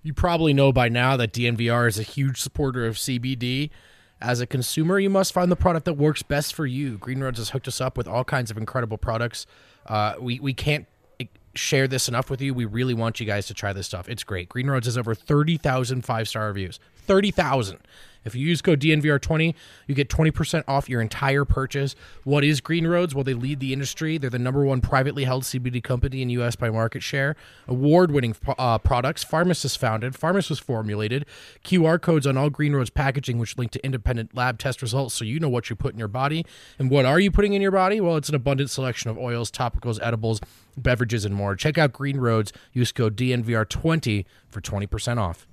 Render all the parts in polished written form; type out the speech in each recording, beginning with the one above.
You probably know by now that DNVR is a huge supporter of CBD. As a consumer, you must find the product that works best for you. Green Roads has hooked us up with all kinds of incredible products. We can't share this enough with you. We really want you guys to try this stuff. It's great. Green Roads has over 30,000 5-star reviews. 30,000. If you use code DNVR20, you get 20% off your entire purchase. What is Green Roads? Well, they lead the industry. They're the #1 privately held CBD company in U.S. by market share. Award-winning products. Pharmacist founded. Pharmacist formulated. QR codes on all Green Roads packaging, which link to independent lab test results so you know what you put in your body. And what are you putting in your body? Well, it's an abundant selection of oils, topicals, edibles, beverages, and more. Check out Green Roads. Use code DNVR20 for 20% off.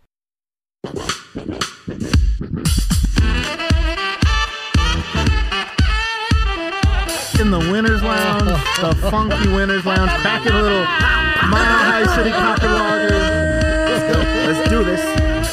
In the Winners Lounge, the funky Winners Lounge, cracking a little Mile High City Coffee Lager. Let's do this.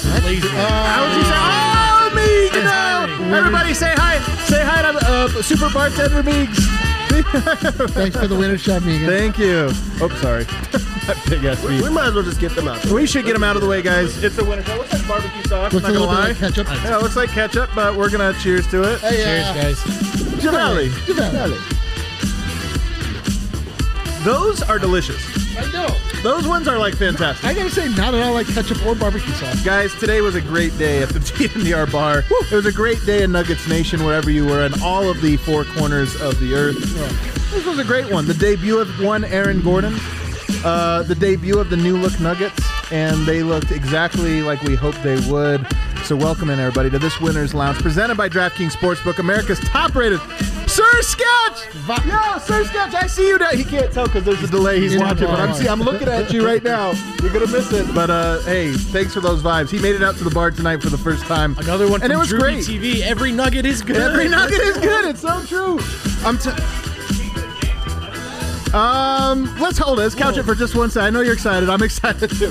Everybody say hi. Say hi to Super Bartender Meeks. Thanks for the winner shot, Megan. Thank you. Oh, sorry. Big ass We might as well just get them out. We should get them out of the way, guys. It's a winner shot. Looks like barbecue sauce. Looks not a gonna little bit lie. like ketchup. Yeah, it looks like ketchup, but we're gonna cheers to it. Hey, Cheers, guys. Javali. Those are delicious. I know. Those ones are like fantastic. I gotta say, not at all like ketchup or barbecue sauce. Guys, today was a great day at the DNVR bar. Woo. It was a great day in Nuggets Nation, wherever you were, in all of the four corners of the earth. Yeah. This was a great one. The debut of one Aaron Gordon, the debut of the new look Nuggets, and they looked exactly like we hoped they would. So welcome in, everybody, to this Winners Lounge, presented by DraftKings Sportsbook, America's top-rated Sir Sketch! Yeah, Sir Sketch, I see you now. He can't tell because there's a delay. He's watching, but I'm looking at you right now. You're going to miss it. But, hey, thanks for those vibes. He made it out to the bar tonight for the first time. Another one and from it was Druby great. TV. Every nugget is good. Every nugget is good. It's so true. Let's hold it. Let's couch it for just one second. I know you're excited. I'm excited too.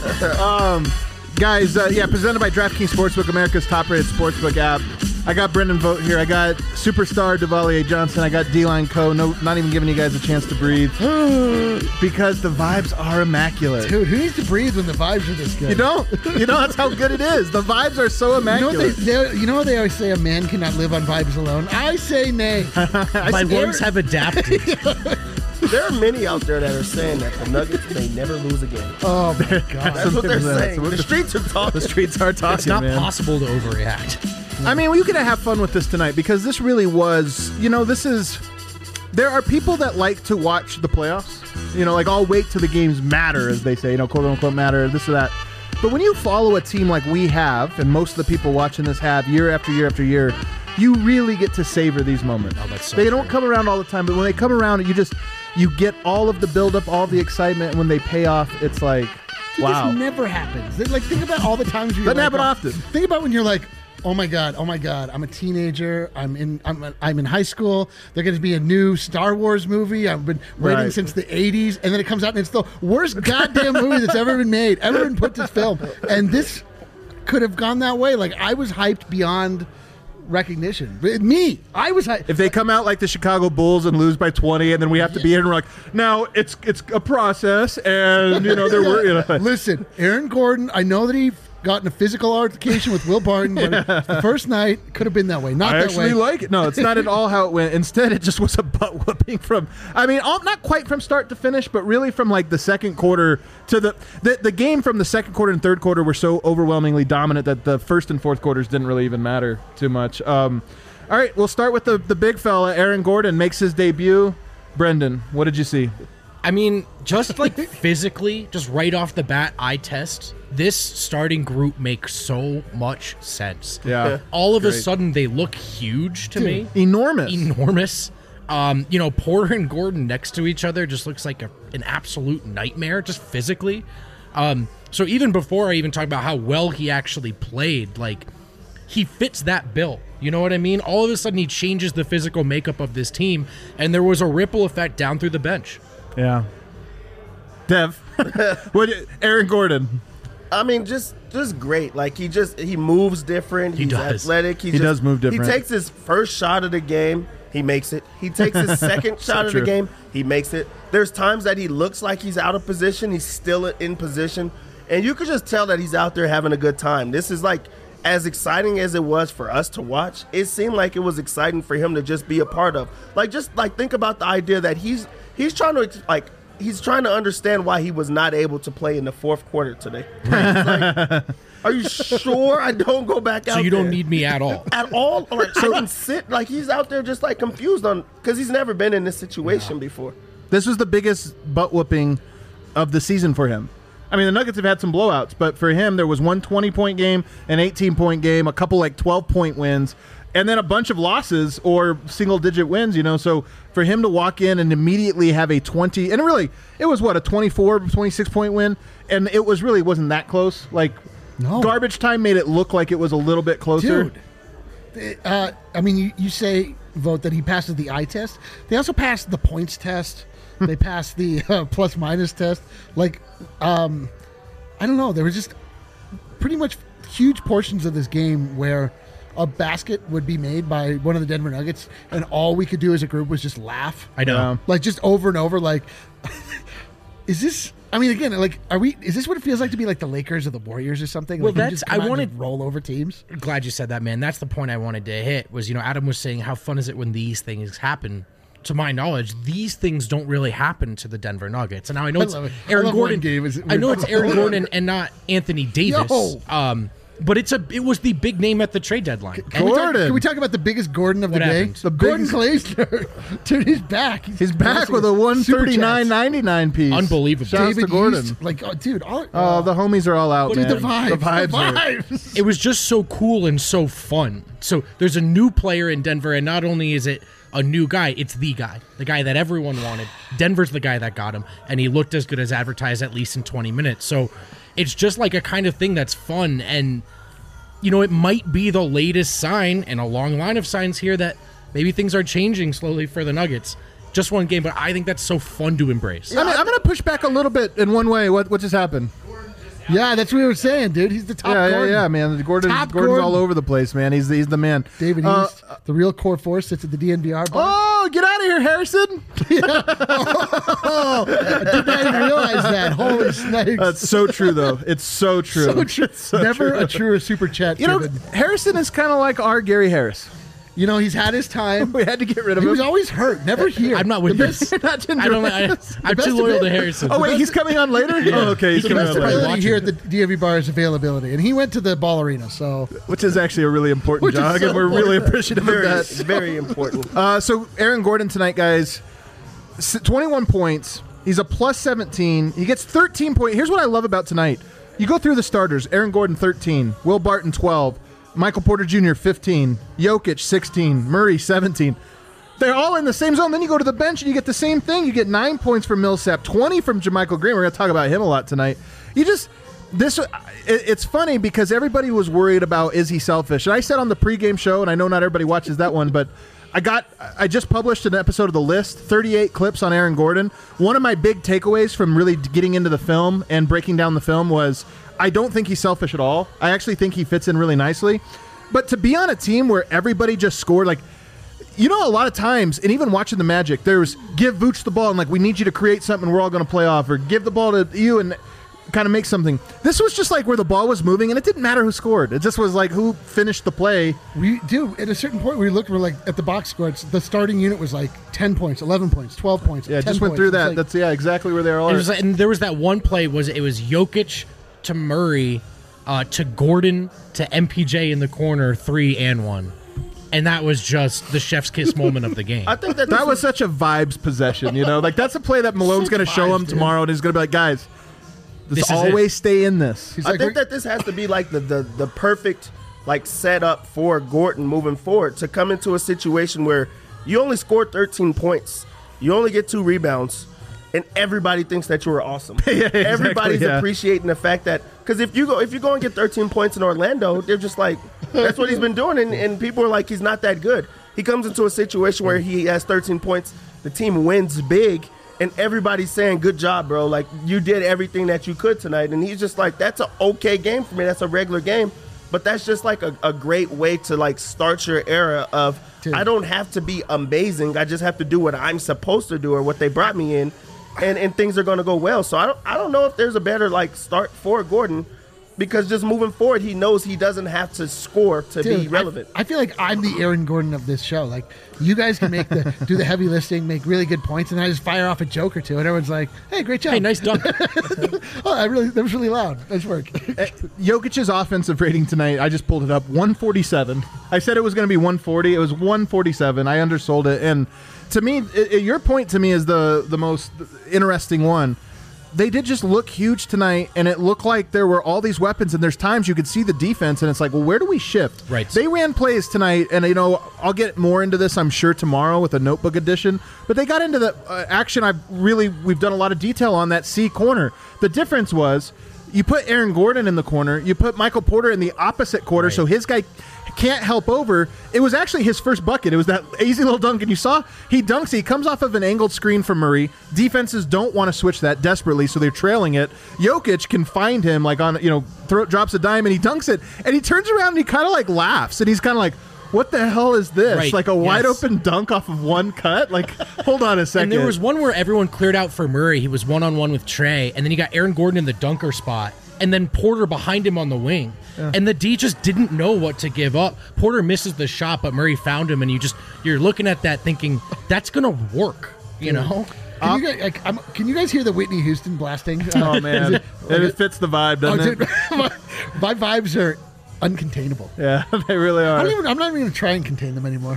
Guys, presented by DraftKings Sportsbook, America's top-rated sportsbook app. I got Brendan Vogt here. I got superstar Devalier Johnson. I got D-Line Co. No, not even giving you guys a chance to breathe because the vibes are immaculate. Dude, who needs to breathe when the vibes are this good? You don't. You know that's how good it is. The vibes are so immaculate. You know what they always say? A man cannot live on vibes alone. I say nay. My lungs have adapted. There are many out there that are saying that the Nuggets may never lose again. Oh, my God. That's what they're saying. The streets are talking. The streets are talking, It's not man. possible to overreact. I mean, we're going to have fun with this tonight because this really was, there are people that like to watch the playoffs. Like, I'll wait till the games matter, as they say, quote unquote matter, this or that. But when you follow a team like we have, and most of the people watching this have year after year after year, you really get to savor these moments. Oh, that's so they don't come around all the time, but when they come around, you get all of the buildup, all of the excitement, and when they pay off, it's like, wow. This never happens. Like, think about all the times you're Doesn't happen often. Think about when you're like, oh my god, I'm a teenager, I'm in high school, there's going to be a new Star Wars movie, I've been waiting since the 80s, and then it comes out and it's the worst goddamn movie that's ever been made, ever been put to film. And this could have gone that way. Like, I was hyped beyond recognition. I was hyped. If they come out like the Chicago Bulls and lose by 20, and then we have to be here and we're like, now it's a process, and Listen, Aaron Gordon, I know that he got in a physical altercation with Will Barton, but the first night could have been that way. Not I that actually way. like it. No, it's not at all how it went. Instead, it just was a butt whooping from, not quite from start to finish, but really from like the second quarter to the game from the second quarter and third quarter were so overwhelmingly dominant that the first and fourth quarters didn't really even matter too much. All right, we'll start with the big fella. Aaron Gordon makes his debut. Brendan, what did you see? I mean, just like physically, just right off the bat, eye test, this starting group makes so much sense. Yeah. All of a sudden, they look huge to me. Enormous. Porter and Gordon next to each other just looks like an absolute nightmare, just physically. So even before I even talk about how well he actually played, like, he fits that bill. You know what I mean? All of a sudden, he changes the physical makeup of this team, and there was a ripple effect down through the bench. Yeah. Dev, Aaron Gordon. I mean, just great. Like, he moves different. He's athletic. He does move different. He takes his first shot of the game. He makes it. He takes his second shot of the game. He makes it. There's times that he looks like he's out of position. He's still in position. And you could just tell that he's out there having a good time. This is like, as exciting as it was for us to watch, it seemed like it was exciting for him to just be a part of. Like, just like think about the idea that he's trying to understand why he was not able to play in the fourth quarter today. Like, are you sure I don't go back out? So you don't there? need me at all. At all? Like, I can sit. Like, he's out there just like confused because he's never been in this situation before. This was the biggest butt whooping of the season for him. I mean, the Nuggets have had some blowouts, but for him, there was one 20-point game, an 18-point game, a couple like 12-point wins, and then a bunch of losses or single-digit wins, So for him to walk in and immediately have a 20, and it was what, a 24, 26-point win, and it wasn't that close. Like, garbage time made it look like it was a little bit closer. Dude, I mean, you say, Vote, that he passes the eye test. They also passed the points test. They passed the plus-minus test. Like, I don't know. There was just pretty much huge portions of this game where a basket would be made by one of the Denver Nuggets, and all we could do as a group was just laugh. I know. Yeah. Like, just over and over, like, is this... I mean, again, like, is this what it feels like to be like the Lakers or the Warriors or something? Well, like, I wanted to roll over teams. Glad you said that, man. That's the point I wanted to hit was, Adam was saying how fun is it when these things happen. To my knowledge, these things don't really happen to the Denver Nuggets. And now I know it's Aaron Gordon. I know it's Aaron Gordon and not Anthony Davis. But it was the big name at the trade deadline. Can we talk about the biggest Gordon of the day? happened? The Gordon Glazner. Dude, he's back. He's back with a 139.99 piece. Unbelievable. Shouts to Gordon. East, like, dude. The homies are all out, man. The vibes. The vibes. It was just so cool and so fun. So there's a new player in Denver, and not only is it a new guy, it's the guy that everyone wanted. Denver's the guy that got him, and he looked as good as advertised, at least in 20 minutes. So it's just like a kind of thing that's fun, and it might be the latest sign in a long line of signs here that maybe things are changing slowly for the Nuggets. Just one game, but I think that's so fun to embrace. I mean, I'm going to push back a little bit in one way. What just happened? Yeah, that's what we were saying, dude. He's the top Gordon. Yeah, man. Gordon's all over the place, man. He's the man. David East, the real core force, sits at the DNVR bar. Oh, get out of here, Harrison. I did not even realize that. Holy snakes. That's so true, though. It's so true. So true. Never true. a truer super chat. Harrison is kind of like our Gary Harris. He's had his time. We had to get rid of him. He was always hurt, never here. I'm not with this. I'm too loyal to Harrison. Oh, wait, he's coming on later? Yeah. Oh, okay. The best ability here at the DMV bar is availability. And he went to the ball arena, so... Which is actually a really important jog, and we're really appreciative of that. Very important. So, Aaron Gordon tonight, guys, 21 points. He's a plus 17. He gets 13 points. Here's what I love about tonight. You go through the starters. Aaron Gordon, 13. Will Barton, 12. Michael Porter Jr., 15. Jokic, 16. Murray, 17. They're all in the same zone. Then you go to the bench and you get the same thing. You get 9 points from Millsap, 20 from JaMychal Green. We're going to talk about him a lot tonight. It's funny because everybody was worried about, is he selfish? And I said on the pregame show, and I know not everybody watches that one, but I just published an episode of The List, 38 clips on Aaron Gordon. One of my big takeaways from really getting into the film and breaking down the film was I don't think he's selfish at all. I actually think he fits in really nicely. But to be on a team where everybody just scored, like, a lot of times, and even watching the Magic, there's give Vooch the ball and, like, we need you to create something we're all going to play off, or give the ball to you and kind of make something. This was just like where the ball was moving, and it didn't matter who scored. It just was like who finished the play. At a certain point, we're like at the box scores. The starting unit was like 10 points, 11 points, 12 points. Yeah, just went through that. That's exactly where they are. And there was that one play. It was Jokic to Murray, to Gordon to MPJ in the corner, 3 and 1. And that was just the chef's kiss moment of the game. I think that was such a vibes possession, Like, that's a play that Malone's going to show him tomorrow, and he's going to be like, guys, this always stay in this. I think that this has to be like the perfect like setup for Gordon moving forward to come into a situation where you only scored 13 points, you only get 2 rebounds, and everybody thinks that you were awesome. Everybody's appreciating the fact that, because if you go and get 13 points in Orlando, they're just like, that's what he's been doing, and people are like, he's not that good. He comes into a situation where he has 13 points, the team wins big, and everybody's saying, good job, bro. Like, you did everything that you could tonight. And he's just like, that's an okay game for me. That's a regular game. But that's just like a great way to like start your era of, I don't have to be amazing. I just have to do what I'm supposed to do or what they brought me in. and things are going to go well. So I don't know if there's a better like start for Gordon, because just moving forward, he knows he doesn't have to score to be relevant. I feel like I'm the Aaron Gordon of this show. Like, you guys can do the heavy lifting, make really good points, and then I just fire off a joke or two, and everyone's like, "Hey, great job! Hey, nice dunk." That was really loud. Nice work. Jokic's offensive rating tonight, I just pulled it up, 147. I said it was going to be 140. It was 147. I undersold it. And to me, your point to me is the most interesting one. They did just look huge tonight, and it looked like there were all these weapons, and there's times you could see the defense, and it's like, well, where do we shift? Right. They ran plays tonight, and, I'll get more into this, I'm sure, tomorrow with a notebook edition, but they got into the action we've done a lot of detail on that C corner. The difference was you put Aaron Gordon in the corner, you put Michael Porter in the opposite quarter, so his guy can't help over. It was actually his first bucket. It was that easy little dunk, and you saw he dunks. He comes off of an angled screen from Murray. Defenses don't want to switch that desperately, so they're trailing it. Jokic can find him drops a dime, and he dunks it, and he turns around and he kind of like laughs, and he's kind of like, what the hell is this? Right. Like a wide open dunk off of one cut? Like, hold on a second. And there was one where everyone cleared out for Murray. He was one-on-one with Trey, and then you got Aaron Gordon in the dunker spot, and then Porter behind him on the wing. Yeah. And the D just didn't know what to give up. Porter misses the shot, but Murray found him, and you're looking at that thinking, that's going to work, you know? Can you guys hear the Whitney Houston blasting? Oh, man. It fits the vibe, doesn't it? My vibes are uncontainable. Yeah, they really are. I'm not even going to try and contain them anymore.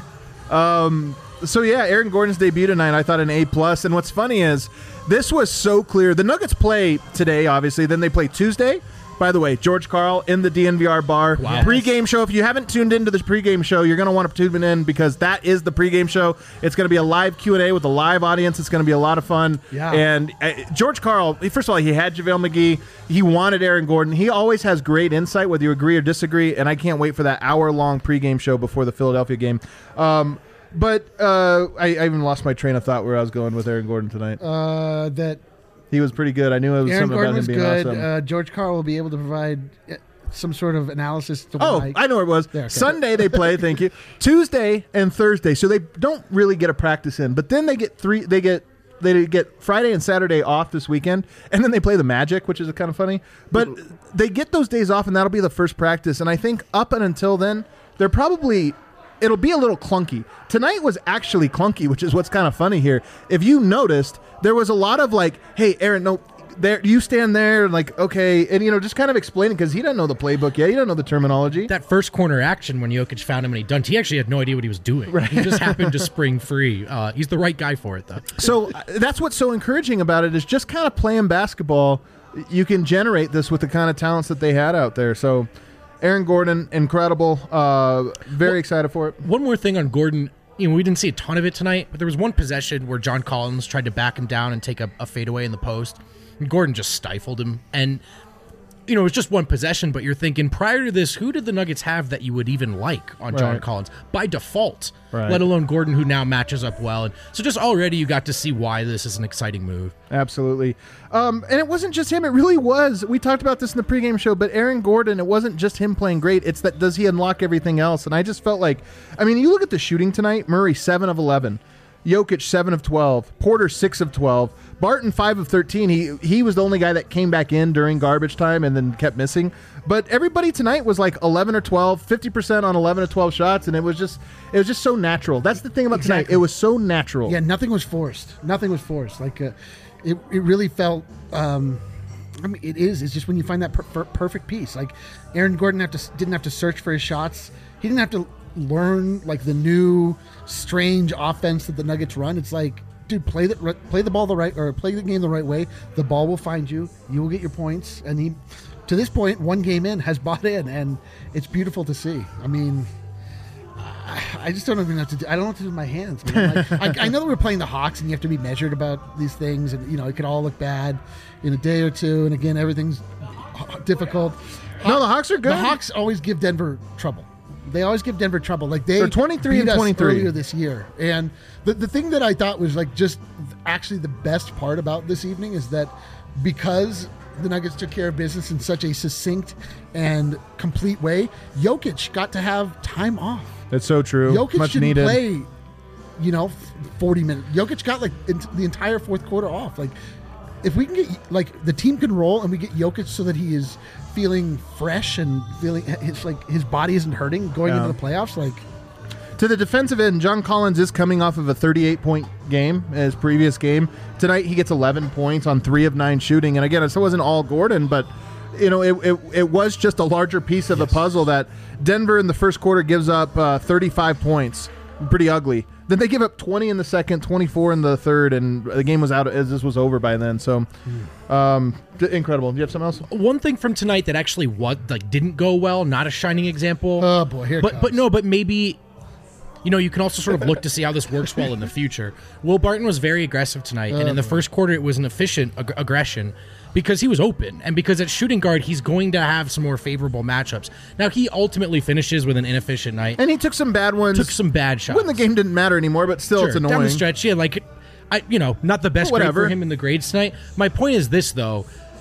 So yeah, Aaron Gordon's debut tonight, I thought an A+. And what's funny is this was so clear. The Nuggets play today, obviously. Then they play Tuesday. By the way, George Karl in the DNVR bar. Wow. Pre-game show. If you haven't tuned into the pre-game show, you're going to want to tune in, because that is the pre-game show. It's going to be a live Q&A with a live audience. It's going to be a lot of fun. Yeah. And George Karl, first of all, he had JaVale McGee. He wanted Aaron Gordon. He always has great insight, whether you agree or disagree, and I can't wait for that hour-long pre-game show before the Philadelphia game. But I even lost my train of thought where I was going with Aaron Gordon tonight. That he was pretty good. I knew it was Aaron something Gordon about him being good. awesome. George Karl will be able to provide some sort of analysis to I know where it was. There, okay. Sunday they play, thank you. Tuesday and Thursday, so they don't really get a practice in. But then they get Friday and Saturday off this weekend, and then they play the Magic, which is kind of funny. But they get those days off, and that'll be the first practice. And I think up and until then, it'll be a little clunky. Tonight was actually clunky, which is what's kind of funny here. If you noticed, there was a lot of like, hey, Aaron, no, there, you stand there, like, okay, and just kind of explaining, because he doesn't know the playbook yet. He doesn't know the terminology. That first corner action when Jokic found him and he dunked, he actually had no idea what he was doing. Right. He just happened to spring free. He's the right guy for it, though. So that's what's so encouraging about it, is just kind of playing basketball. You can generate this with the kind of talents that they had out there. So Aaron Gordon, incredible. Very excited for it. One more thing on Gordon. We didn't see a ton of it tonight, but there was one possession where John Collins tried to back him down and take a fadeaway in the post. And Gordon just stifled him. And, it was just one possession, but you're thinking, prior to this, who did the Nuggets have that you would even like on John Collins? By default, let alone Gordon, who now matches up well. And so just already you got to see why this is an exciting move. Absolutely. And it wasn't just him. It really was. We talked about this in the pregame show, but Aaron Gordon, it wasn't just him playing great. It's that, does he unlock everything else? And I just felt like, you look at the shooting tonight, Murray 7 of 11. Jokic 7 of 12, Porter 6 of 12, Barton 5 of 13. He was the only guy that came back in during garbage time and then kept missing. But everybody tonight was like 11 or 12, 50% on 11 or 12 shots, and it was just so natural. That's the thing about tonight. It was so natural. Yeah, nothing was forced. Like it really felt. It is. It's just when you find that perfect piece. Like Aaron Gordon didn't have to search for his shots. He didn't have to learn like the new strange offense that the Nuggets run. It's like, dude, play the game the right way. The ball will find you. You will get your points. And he, to this point, one game in, has bought in, and it's beautiful to see. I just don't even know what to do. I don't know what to do with my hands, man. I know that we're playing the Hawks, and you have to be measured about these things, and it could all look bad in a day or two. And again, everything's difficult. No, the Hawks are good. The Hawks always give Denver trouble. They always give Denver trouble. Like they're 23 and 23 earlier this year. And the thing that I thought was like just actually the best part about this evening is that because the Nuggets took care of business in such a succinct and complete way, Jokic got to have time off. That's so true. Jokic Much didn't needed. play 40 minutes. Jokic got like the entire fourth quarter off. Like, if we can get like the team can roll and we get Jokic so that he is feeling fresh and feeling his body isn't hurting going into the playoffs. Like, to the defensive end, John Collins is coming off of a 38-point game in his previous game. Tonight he gets 11 points on 3 of 9 shooting. And again, it wasn't all Gordon, but it was just a larger piece of the puzzle that Denver in the first quarter gives up 35 points. Pretty ugly. Then they give up 20 in the second, 24 in the third, and the game was out as this was over by then. So, incredible. Do you have something else? One thing from tonight that actually didn't go well, not a shining example. Oh boy, here it comes. But maybe, you can also sort of look to see how this works well in the future. Will Barton was very aggressive tonight, and in the first quarter it was an efficient aggression because he was open, and because at shooting guard he's going to have some more favorable matchups. Now he ultimately finishes with an inefficient night, and he took some bad ones. Took some bad shots when the game didn't matter anymore, but still, sure, it's annoying. Down the stretch, yeah, not the best grade for him in the grades tonight. My point is this, though.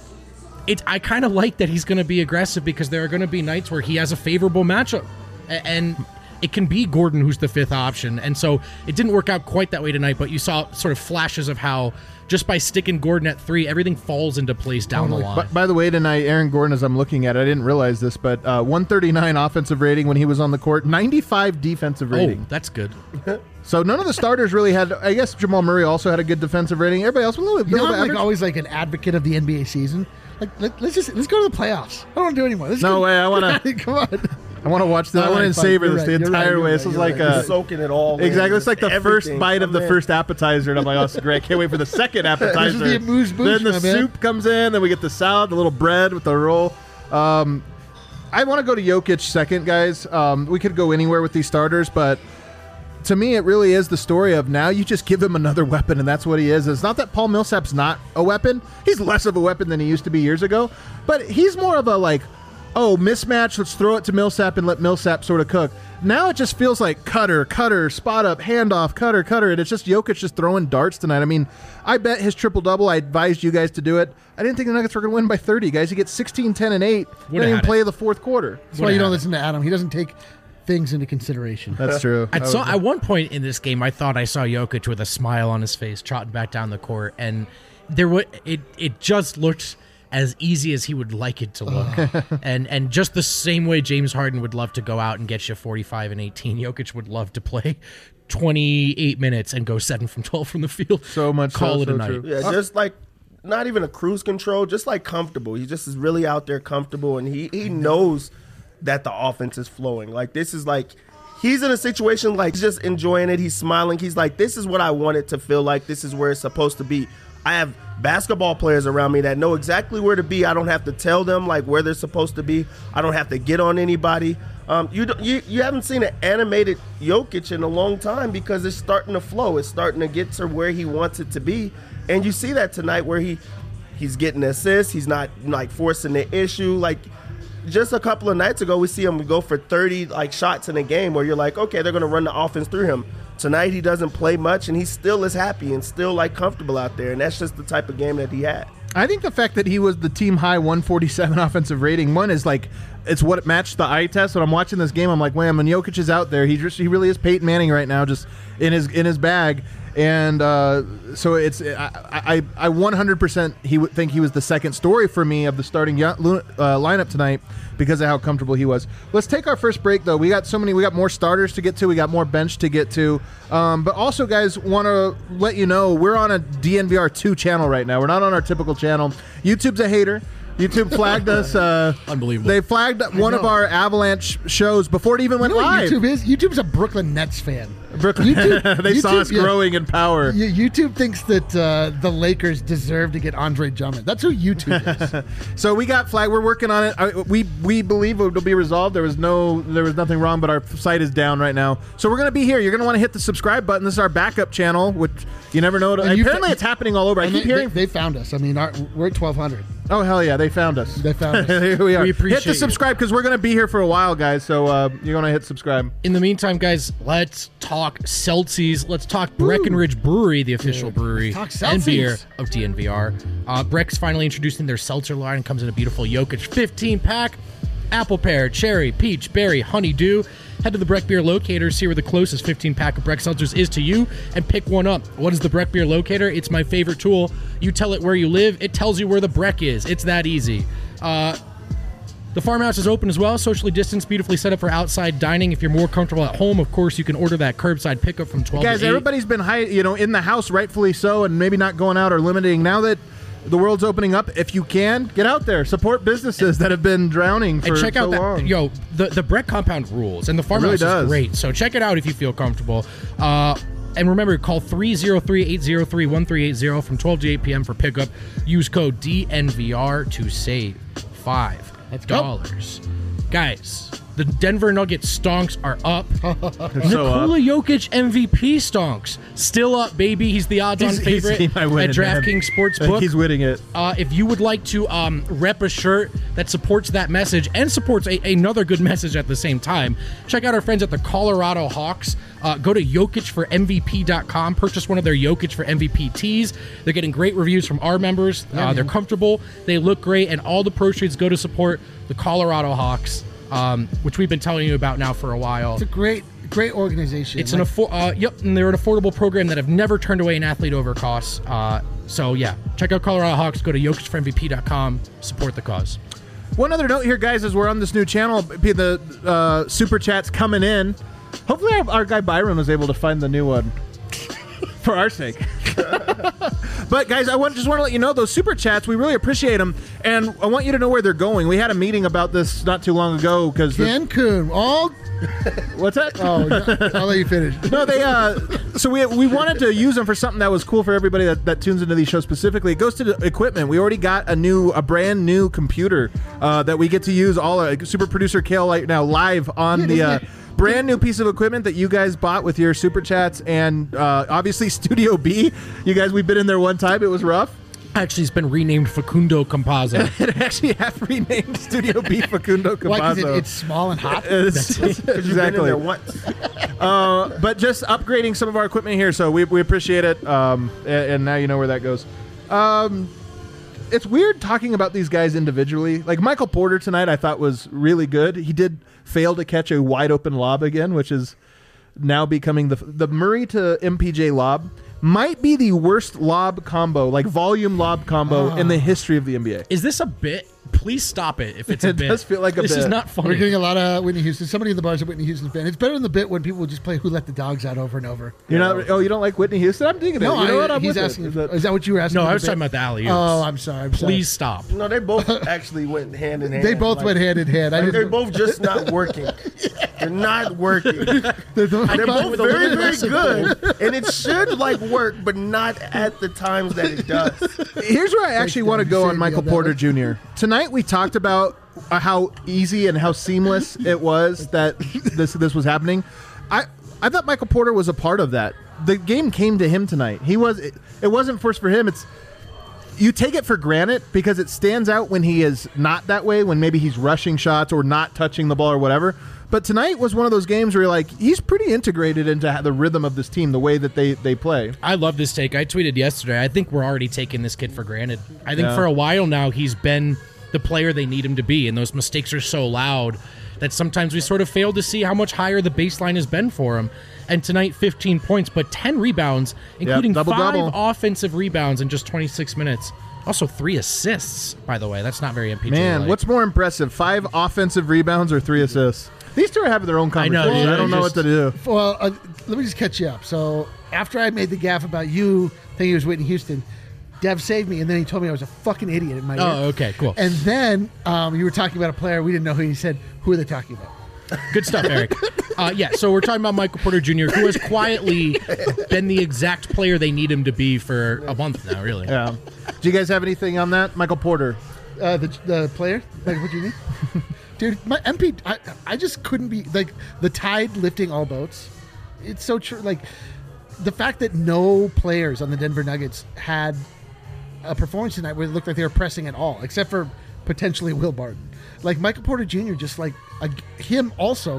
I kind of like that he's going to be aggressive because there are going to be nights where he has a favorable matchup, and it can be Gordon who's the fifth option. And so it didn't work out quite that way tonight, but you saw sort of flashes of how just by sticking Gordon at 3, everything falls into place down the line. By the way, tonight, Aaron Gordon, as I'm looking at it, I didn't realize this, but 139 offensive rating when he was on the court, 95 defensive rating. Oh, that's good. So none of the starters really had. I guess Jamal Murray also had a good defensive rating. Everybody else was a little bit. I'm always like an advocate of the NBA season. Like, let's go to the playoffs. I don't want to do anymore. No way. I want to. Come on. I want to watch this. I want to savor this the entire way. This is like soaking it all. Exactly. It's like the first bite of the first appetizer, and I'm like, oh, this is great. I can't wait for the second appetizer. This is the amuse-bouche, then the soup comes in. Then we get the salad, the little bread with the roll. I want to go to Jokic second, guys. We could go anywhere with these starters, but to me, it really is the story of now you just give him another weapon, and that's what he is. It's not that Paul Millsap's not a weapon. He's less of a weapon than he used to be years ago, but he's more of a mismatch, let's throw it to Millsap and let Millsap sort of cook. Now it just feels like cutter, spot up, handoff, cutter, and it's just Jokic just throwing darts tonight. I mean, I bet his triple-double, I advised you guys to do it. I didn't think the Nuggets were going to win by 30, guys. He gets 16, 10, and 8. Didn't even play the fourth quarter. That's why you don't listen to Adam. He doesn't take things into consideration. That's true. At one point in this game, I thought I saw Jokic with a smile on his face, trotting back down the court, and it just looked as easy as he would like it to look. and just the same way James Harden would love to go out and get you 45 and 18, Jokic would love to play 28 minutes and go 7 from 12 from the field. So much Call it a night. True. Yeah, just like not even a cruise control, just like comfortable. He just is really out there comfortable, and he knows that the offense is flowing. Like, this is like he's in a situation like he's just enjoying it. He's smiling. He's like, this is what I want it to feel like. This is where it's supposed to be. I have basketball players around me that know exactly where to be. I don't have to tell them like where they're supposed to be. I don't have to get on anybody. You haven't seen an animated Jokic in a long time because it's starting to flow. It's starting to get to where he wants it to be, and you see that tonight where he's getting assists. He's not like forcing the issue. Like just a couple of nights ago, we see him go for 30 shots in a game where you're like, okay, they're going to run the offense through him. Tonight he doesn't play much, and he still is happy and still comfortable out there, and that's just the type of game that he had. I think the fact that he was the team high 147 offensive rating, one is it's what matched the eye test. When I'm watching this game, I'm like, man, when Jokic is out there, he really is Peyton Manning right now, just in his bag. And so it's I 100% think he was the second story for me of the starting lineup tonight because of how comfortable he was. Let's take our first break though. We got more starters to get to. We got more bench to get to. But also, guys, want to let you know we're on a DNVR 2 channel right now. We're not on our typical channel. YouTube's a hater. YouTube flagged us. Unbelievable. They flagged one of our Avalanche shows before it even went live. YouTube's a Brooklyn Nets fan. They saw us growing in power. YouTube thinks that the Lakers deserve to get Andre Drummond. That's who YouTube is. So we got flagged. We're working on it. We believe it'll be resolved. There was nothing wrong, but our site is down right now. So we're gonna be here. You're gonna want to hit the subscribe button. This is our backup channel, which you never know. Apparently, it's happening all over. I keep hearing they found us. I mean, we're at 1,200. Oh hell yeah, they found us. They found us. Here we are. We appreciate hit the subscribe because we're gonna be here for a while, guys. So you're gonna hit subscribe. In the meantime, guys, let's talk Celsius. Let's talk Breckenridge Brewery, the official brewery and beer of DNVR. Breck's finally introducing their seltzer line. It comes in a beautiful Jokic 15-pack. Apple pear, cherry, peach, berry, honeydew. Head to the Breck Beer Locator, see where the closest 15-pack of Breck seltzers is to you, and pick one up. What is the Breck Beer Locator? It's my favorite tool. You tell it where you live, it tells you where the Breck is. It's that easy. The farmhouse is open as well, socially distanced, beautifully set up for outside dining. If you're more comfortable at home, of course, you can order that curbside pickup from 12 Guys, to 8. everybody's been in the house, rightfully so, and maybe not going out or limiting. Now that the world's opening up, if you can, get out there, support businesses that have been drowning for and check out so long. the Breck compound rules, and the farmhouse is great. So check it out if you feel comfortable. And remember, call 303-803-1380 from 12 to 8 p.m. for pickup. Use code DNVR to save $5. Guys, the Denver Nuggets stonks are up. Nikola Jokic MVP stonks still up, baby. He's the odds-on favorite at DraftKings Sportsbook. He's winning it. If you would like to rep a shirt that supports that message and supports another good message at the same time, check out our friends at the Colorado Hawks. Go to YokicForMVP.com. Purchase one of their Jokic for MVP tees. They're getting great reviews from our members. They're comfortable. They look great, and all the proceeds go to support the Colorado Hawks, which we've been telling you about now for a while. It's a great organization. It's and they're an affordable program that have never turned away an athlete over costs. So yeah, check out Colorado Hawks. Go to YokicForMVP.com. Support the cause. One other note here, guys, as we're on this new channel, the super chats coming in. Hopefully our guy Byron was able to find the new one for our sake. But guys, I just want to let you know those super chats, we really appreciate them, and I want you to know where they're going. We had a meeting about this not too long ago because Cancun. What's that? Oh, I'll let you finish. No, they so we wanted to use them for something that was cool for everybody that tunes into these shows specifically. It goes to the equipment. We already got a brand new computer that we get to use. Super producer Kale right now live on the brand new piece of equipment that you guys bought with your super chats, and obviously Studio B. You guys, we've been in there one time. It was rough. Actually, it's been renamed Facundo Campazzo. It actually have renamed Studio B Facundo Campazzo. Why? Because it's small and hot? Exactly. You've been in there once. But just upgrading some of our equipment here, so we appreciate it, and now you know where that goes. It's weird talking about these guys individually. Like Michael Porter tonight, I thought was really good. He did fail to catch a wide open lob again, which is now becoming the Murray to MPJ lob might be the worst lob combo, like volume lob combo in the history of the NBA. Is this a bit? Please stop it if it's a bit. It does feel like a bit. This is not funny. We're getting a lot of Whitney Houston. Somebody in the bar's a Whitney Houston fan. It's better than the bit when people just play Who Let the Dogs Out over and over. You don't like Whitney Houston? I'm digging it. No, you know what? I'm he's with asking. it. Is that what you were asking? No, I was talking about the alley-oops. Oh, I'm sorry. Please stop. No, they both actually went hand in hand. They both went hand in hand. They're both just not working. They're not working. They're both very, very good, and it should work, but not at the times that it does. Here's where I actually want to go on Michael Porter Jr. Tonight we talked about how easy and how seamless it was that this was happening. I thought Michael Porter was a part of that. The game came to him tonight. It wasn't forced for him. You take it for granted because it stands out when he is not that way, when maybe he's rushing shots or not touching the ball or whatever. But tonight was one of those games where you're like, he's pretty integrated into the rhythm of this team, the way that they play. I love this take. I tweeted yesterday, I think we're already taking this kid for granted. I think for a while now he's been the player they need him to be, and those mistakes are so loud that sometimes we sort of fail to see how much higher the baseline has been for him. And tonight, 15 points, but 10 rebounds, including double-double. 5 offensive rebounds in just 26 minutes. Also 3 assists, by the way. That's not very MPJ. Man, what's more impressive, 5 offensive rebounds or 3 assists? These two are having their own conversation. I know, I don't know what to do. Well, let me just catch you up. So after I made the gaffe about you thinking it was Whitney Houston, Dev saved me, and then he told me I was a fucking idiot in my ear. Oh, okay, cool. And then you were talking about a player. We didn't know who. He said, who are they talking about? Good stuff, Eric. So we're talking about Michael Porter Jr., who has quietly been the exact player they need him to be for a month now, really. Yeah. Do you guys have anything on that? Michael Porter. The player? Like, what do you mean? Dude, my MP, I just couldn't be, the tide lifting all boats. It's so true. Like, the fact that no players on the Denver Nuggets had a performance tonight where it looked like they were pressing at all, except for potentially Will Barton. Like, Michael Porter Jr., just him also,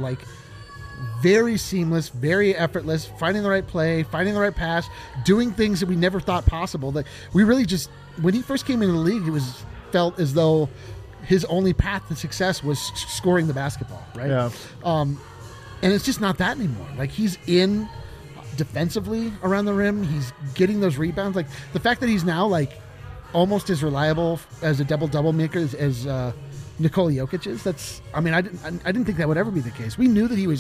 very seamless, very effortless, finding the right play, finding the right pass, doing things that we never thought possible. Like, we really just, when he first came into the league, it felt as though his only path to success was scoring the basketball, right? Yeah. And it's just not that anymore. Like, he's in defensively around the rim. He's getting those rebounds. Like, the fact that he's now, like, almost as reliable as a double-double maker as Nikola Jokic is, that's... I mean, I didn't think that would ever be the case. We knew that he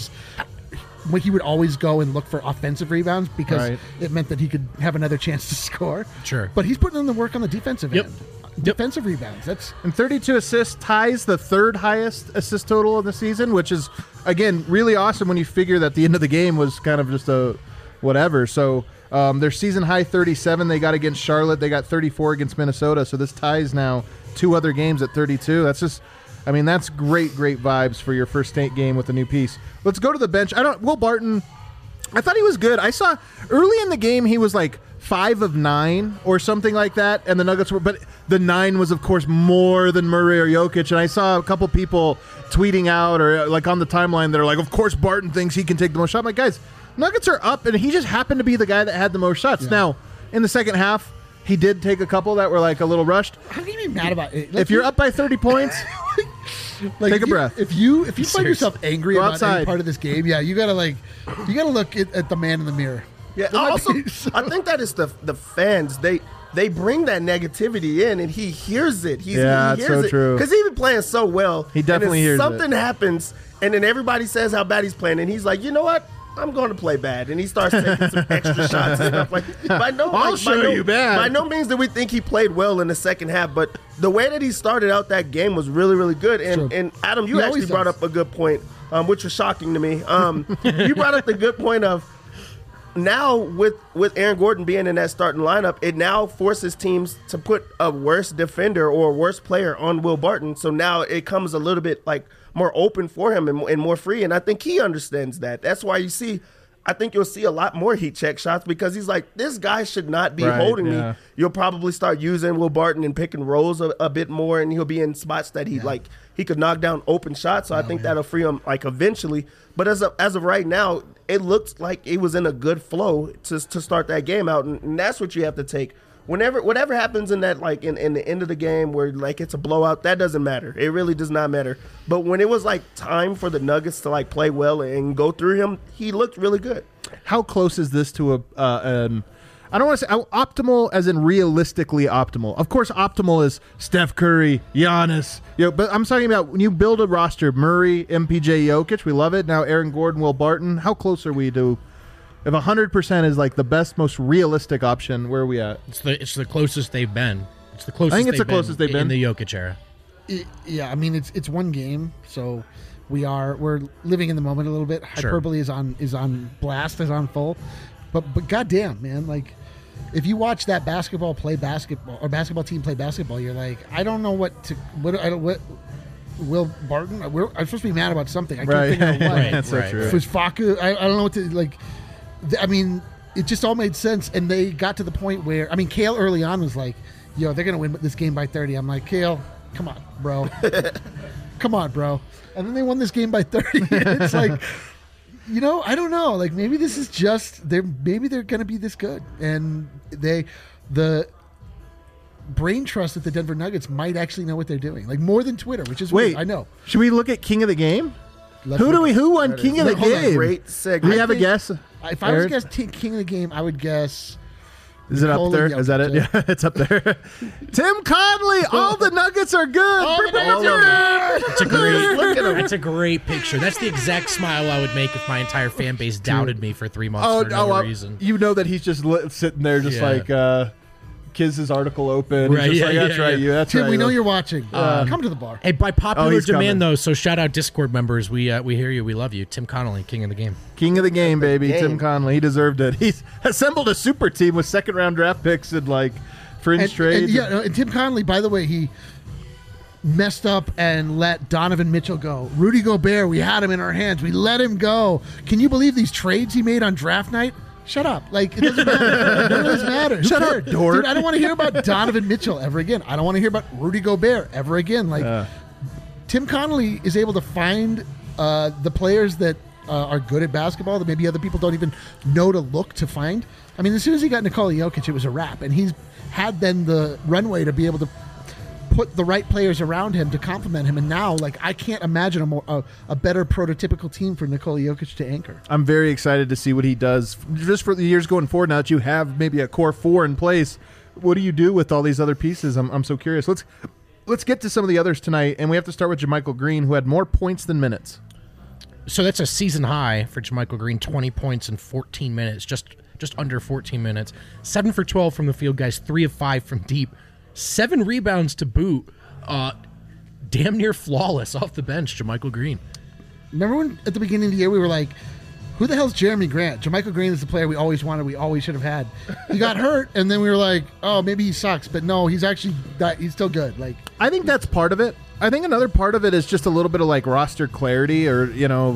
would always go and look for offensive rebounds because it meant that he could have another chance to score. Sure. But he's putting in the work on the defensive Yep. end. Defensive rebounds. That's... And 32 assists ties the third highest assist total of the season, which is, again, really awesome when you figure that the end of the game was kind of just a whatever. So their season high 37 they got against Charlotte. They got 34 against Minnesota. So this ties now 2 other games at 32. That's just, I mean, that's great vibes for your first state game with a new piece. Let's go to the bench. Will Barton, I thought he was good. I saw early in the game he was like 5 of 9 or something like that, and the Nuggets were, but the 9 was of course more than Murray or Jokic, and I saw a couple people tweeting out or like on the timeline that are like, of course Barton thinks he can take the most shot. I'm like, guys, Nuggets are up, and he just happened to be the guy that had the most shots. Yeah. Now, in the second half, he did take a couple that were like a little rushed. How can you be mad about it? Like, if you're up by 30 points, like take a breath. If you find yourself angry Go about outside. any part of this game, you gotta look at the man in the mirror. Yeah, also, I think that is the fans. They bring that negativity in, and he hears it. He it's hears so it. true. Because he's been playing so well. He definitely and hears something happens, and then everybody says how bad he's playing, and he's like, you know what? I'm going to play bad, and he starts taking some extra shots and stuff like. I'll show you bad. By no means did we think he played well in the second half, but the way that he started out that game was really, really good. And Adam, you actually brought up a good point, which was shocking to me. You brought up the good point of now with Aaron Gordon being in that starting lineup, it now forces teams to put a worse defender or a worse player on Will Barton. So now it comes a little bit like more open for him and more free. And I think he understands that. That's why I think you'll see a lot more heat check shots because he's like, this guy should not be holding me. You'll probably start using Will Barton and pick and rolls a bit more, and he'll be in spots that he could knock down open shots. So I think that'll free him like eventually. But as of right now, it looks like it was in a good flow to start that game out, and that's what you have to take. Whatever happens in that, like in the end of the game where like it's a blowout, that doesn't matter. It really does not matter. But when it was like time for the Nuggets to like play well and go through him, he looked really good. How close is this to I don't want to say optimal as in realistically optimal. Of course, optimal is Steph Curry, Giannis, but I'm talking about when you build a roster, Murray, MPJ, Jokic, we love it. Now Aaron Gordon, Will Barton. How close are we to? If 100% is like the best, most realistic option, where are we at? It's the closest they've been. It's the closest. I think it's the closest they've been in the Jokic era. I mean it's one game, so we're living in the moment a little bit. Sure. Hyperbole is on blast, is on full, but goddamn, man, like if you watch that basketball team play basketball, you're like, I don't know what Will Barton. I'm supposed to be mad about something. I can't figure out what. That's so true. If it was Faku, I don't know what to like. I mean, it just all made sense, and they got to the point where, I mean, Kale early on was like, they're going to win this game by 30. I'm like, Kale, come on, bro. Come on, bro. And then they won this game by 30. It's like, I don't know. Like, maybe this is just, maybe they're going to be this good. And the brain trust at the Denver Nuggets might actually know what they're doing. Like, more than Twitter, which is weird. I know. Should we look at King of the Game? Who won King of the Game? Great segment. Do we have a guess? If I was to guess King of the Game, I would guess. Is it up there? Is that it? Yeah, it's up there. Tim Conley. All the Nuggets are good. It's a great picture. That's the exact smile I would make if my entire fan base doubted me for 3 months for no reason. You know that he's just sitting there, just like. Kiz's article open. Right, just that's right. You. That's Tim, right. we know you're watching. Come to the bar. Hey, by popular demand, coming. though, so shout out Discord members. We hear you. We love you. Tim Connolly, King of the Game. King of the Game, baby. Tim Conley. He deserved it. He's assembled a super team with second-round draft picks and, like, fringe trades. And Tim Conley, by the way, he messed up and let Donovan Mitchell go. Rudy Gobert, we had him in our hands. We let him go. Can you believe these trades he made on draft night? Shut up. Like, it doesn't matter. None of this matters. Shut up, dork. Dude, I don't want to hear about Donovan Mitchell ever again. I don't want to hear about Rudy Gobert ever again. Like, Tim Connolly is able to find the players that are good at basketball that maybe other people don't even know to look to find. I mean, as soon as he got Nikola Jokic, it was a wrap. And he's had then the runway to be able to put the right players around him to complement him. And now, like, I can't imagine a better prototypical team for Nikola Jokic to anchor. I'm very excited to see what he does just for the years going forward. Now that you have maybe a core 4 in place, what do you do with all these other pieces? I'm so curious. Let's get to some of the others tonight, and we have to start with JaMychal Green, who had more points than minutes. So that's a season high for JaMychal Green, 20 points in 14 minutes, just under 14 minutes. 7 for 12 from the field, guys, 3 of 5 from deep. 7 rebounds to boot. Damn near flawless off the bench, JaMychal Green. Remember when at the beginning of the year we were like, who the hell's Jeremy Grant? JaMychal Green is the player we always wanted, we always should have had. He got hurt, and then we were like, oh, maybe he sucks. But no, he's still good. Like, I think that's part of it. I think another part of it is just a little bit of like roster clarity, or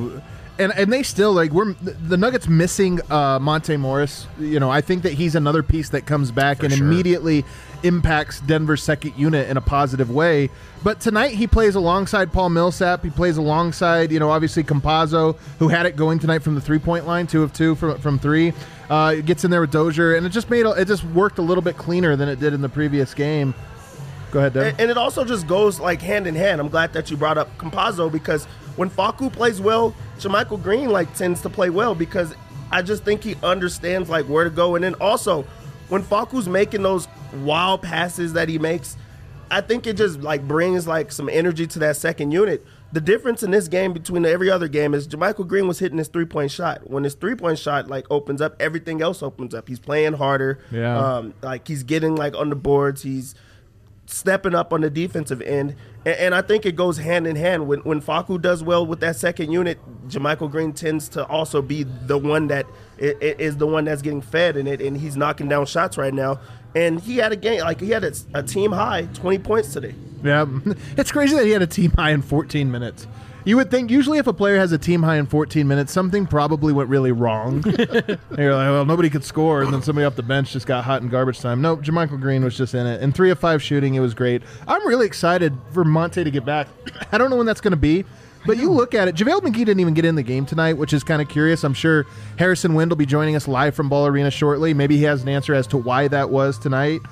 and they still like the Nuggets missing Monte Morris. I think that he's another piece that comes back and immediately impacts Denver's second unit in a positive way. But tonight he plays alongside Paul Millsap. He plays alongside obviously Campazzo, who had it going tonight from the 3-point line, 2 of 2 from 3. Gets in there with Dozier, and it just worked a little bit cleaner than it did in the previous game. Go ahead, Devin. And it also just goes like hand in hand. I'm glad that you brought up Campazzo, because when Facu plays well, JaMychal Green tends to play well, because I just think he understands where to go. And then also when Facu's making those wild passes that he makes, I think it just brings some energy to that second unit. The difference in this game between every other game is JaMychal Green was hitting his 3-point shot. When his 3-point shot opens up, everything else opens up. He's playing harder. Yeah. He's getting on the boards. He's stepping up on the defensive end, and I think it goes hand in hand. When Facu does well with that second unit, JaMychal Green tends to also be the one that is the one that's getting fed in it, and he's knocking down shots right now. And he had a game, he had a team high 20 points today. Yeah, it's crazy that he had a team high in 14 minutes. You would think usually if a player has a team high in 14 minutes, something probably went really wrong. You're like, well, nobody could score, and then somebody off the bench just got hot in garbage time. No, JaMychal Green was just in it. And 3 of 5 shooting, it was great. I'm really excited for Monte to get back. I don't know when that's going to be, but you look at it. JaVale McGee didn't even get in the game tonight, which is kind of curious. I'm sure Harrison Wind will be joining us live from Ball Arena shortly. Maybe he has an answer as to why that was tonight.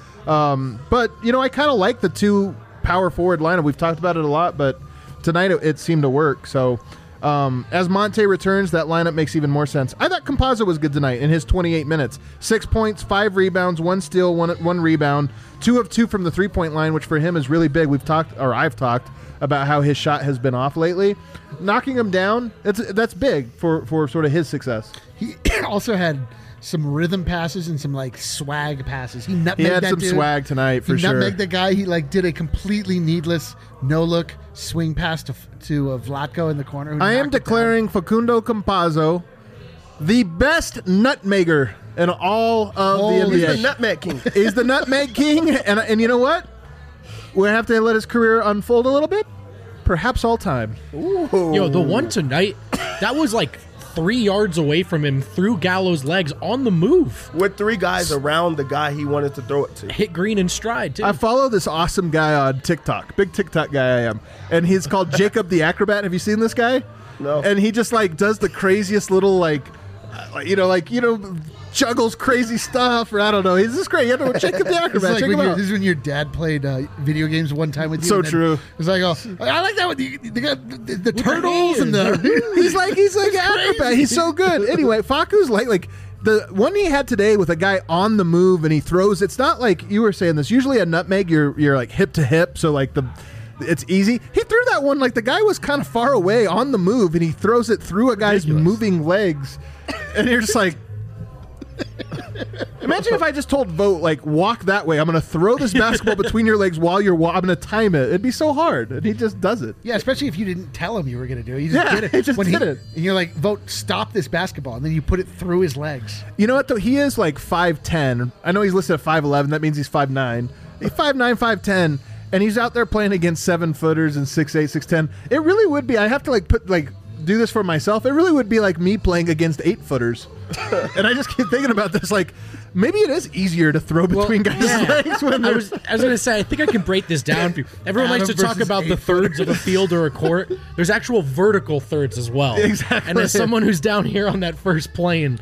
But, I kind of like the 2 power forward lineup. We've talked about it a lot, but tonight it seemed to work. So as Monte returns, that lineup makes even more sense. I thought Campazzo was good tonight in his 28 minutes. 6 points, 5 rebounds, 1 steal, 1 rebound, 2 of 2 from the 3-point line, which for him is really big. I've talked about how his shot has been off lately. Knocking him down, that's big for sort of his success. He also had some rhythm passes and some swag passes. He had some swag tonight for sure. He nutmegged the guy. He did a completely needless no-look swing pass to Vlatko in the corner. I am declaring Facundo Campazzo the best nutmegger in all of the NBA. He's the nutmeg king. He's the nutmeg king, and you know what? We'll have to let his career unfold a little bit. Perhaps all time. Ooh. Yo, the one tonight, that was 3 yards away from him through Gallo's legs on the move. With 3 guys around the guy he wanted to throw it to. Hit Green in stride, too. I follow this awesome guy on TikTok. Big TikTok guy I am. And he's called Jacob the Acrobat. Have you seen this guy? No. And he just does the craziest little juggles crazy stuff, or I don't know. He's just great. You have to Jacob the Acrobat. This is when your dad played video games one time with you. So true. It's I like that with the turtles and the. He's like Acrobat. He's so good. Anyway, Facu's like the one he had today with a guy on the move and he throws. It's not like you were saying this. Usually a nutmeg, you're hip to hip, so it's easy. He threw that one the guy was kind of far away on the move, and he throws it through a guy's moving legs, and you're just like. Imagine if I just told Vogt walk that way. I'm going to throw this basketball between your legs while you're I'm going to time it. It'd be so hard, and he just does it. Yeah, especially if you didn't tell him you were going to do it. You just did it. He just did it. And you're like, Vogt, stop this basketball, and then you put it through his legs. You know what though? He is 5'10". I know he's listed at 5'11". That means he's 5'9". He's 5'9", 5'10", and he's out there playing against 7-footers and 6'8", 6'10". It really would be. I have to do this for myself. It really would be like me playing against 8-footers. And I just keep thinking about this, maybe it is easier to throw between guys' legs when I was going to say, I think I can break this down for you. Everyone likes to talk about the thirds of a field or a court. There's actual vertical thirds as well. Exactly. And as someone who's down here on that first plane,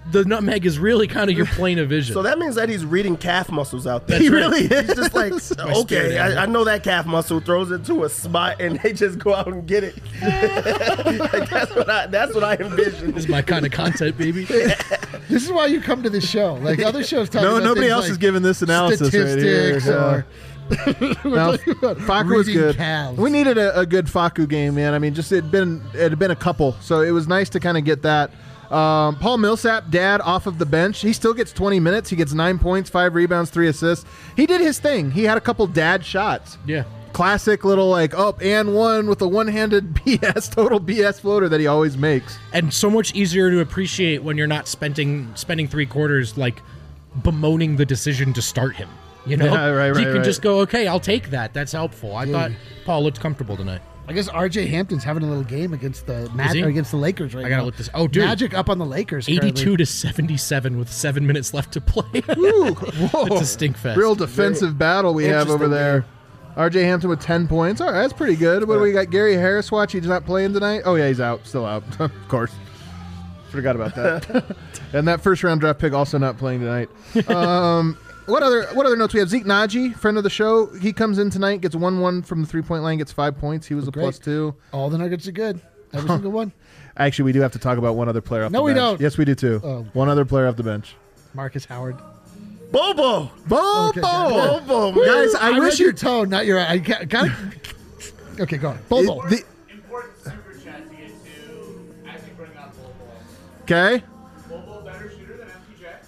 the nutmeg is really kind of your plane of vision. So that means that he's reading calf muscles out there. He really is. He's just like, okay, spirit I know that calf muscle, throws it to a spot, and they just go out and get it. Like, that's what I envision. This is my kind of content, baby. This is why you come to this show. Like other shows talk about nobody things else like is giving this analysis right here. statistics Yeah. or No, Facu was reading good. calves. We needed a good Facu game, man. I mean, just it had been a couple, so it was nice to kind of get that. Paul Millsap, dad, off of the bench. He still gets 20 minutes. He gets 9 points, 5 rebounds, 3 assists. He did his thing. He had a couple dad shots. Yeah. Classic little and one with a one-handed total BS floater that he always makes. And so much easier to appreciate when you're not spending 3 quarters like bemoaning the decision to start him. You know, Yeah, right, you can right. just go, okay, I'll take that. That's helpful. I thought Paul looked comfortable tonight. I guess RJ Hampton's having a little game against the he? or against the Lakers right now. I gotta look this. Oh, dude, Magic up on the Lakers. 82 to 77 with 7 minutes left to play. Ooh, whoa. It's a stink fest. Real defensive battle we have over interesting there. RJ Hampton with 10 points. All right, that's pretty good. What do we got? Gary Harris watch. He's not playing tonight. Oh, yeah, he's out. Still out. Of course. Forgot about that. And that first round draft pick also not playing tonight. What other notes we have? Zeke Naji, friend of the show. He comes in tonight, gets 1-1 from the 3-point line, gets 5 points. He was a Great. +2. All the Nuggets are good. Every single one. Actually, we do have to talk about one other player off No, the we bench. don't. Yes, we do too. Oh. One other player off the bench. Marcus Howard. Bobo. Bobo! Okay, good. Bobo. Guys, I read wish your you... tone, not your. I got. Okay, go on. Bobo. Important super chat to get to actually bring up Bobo. Okay. Bobo better shooter than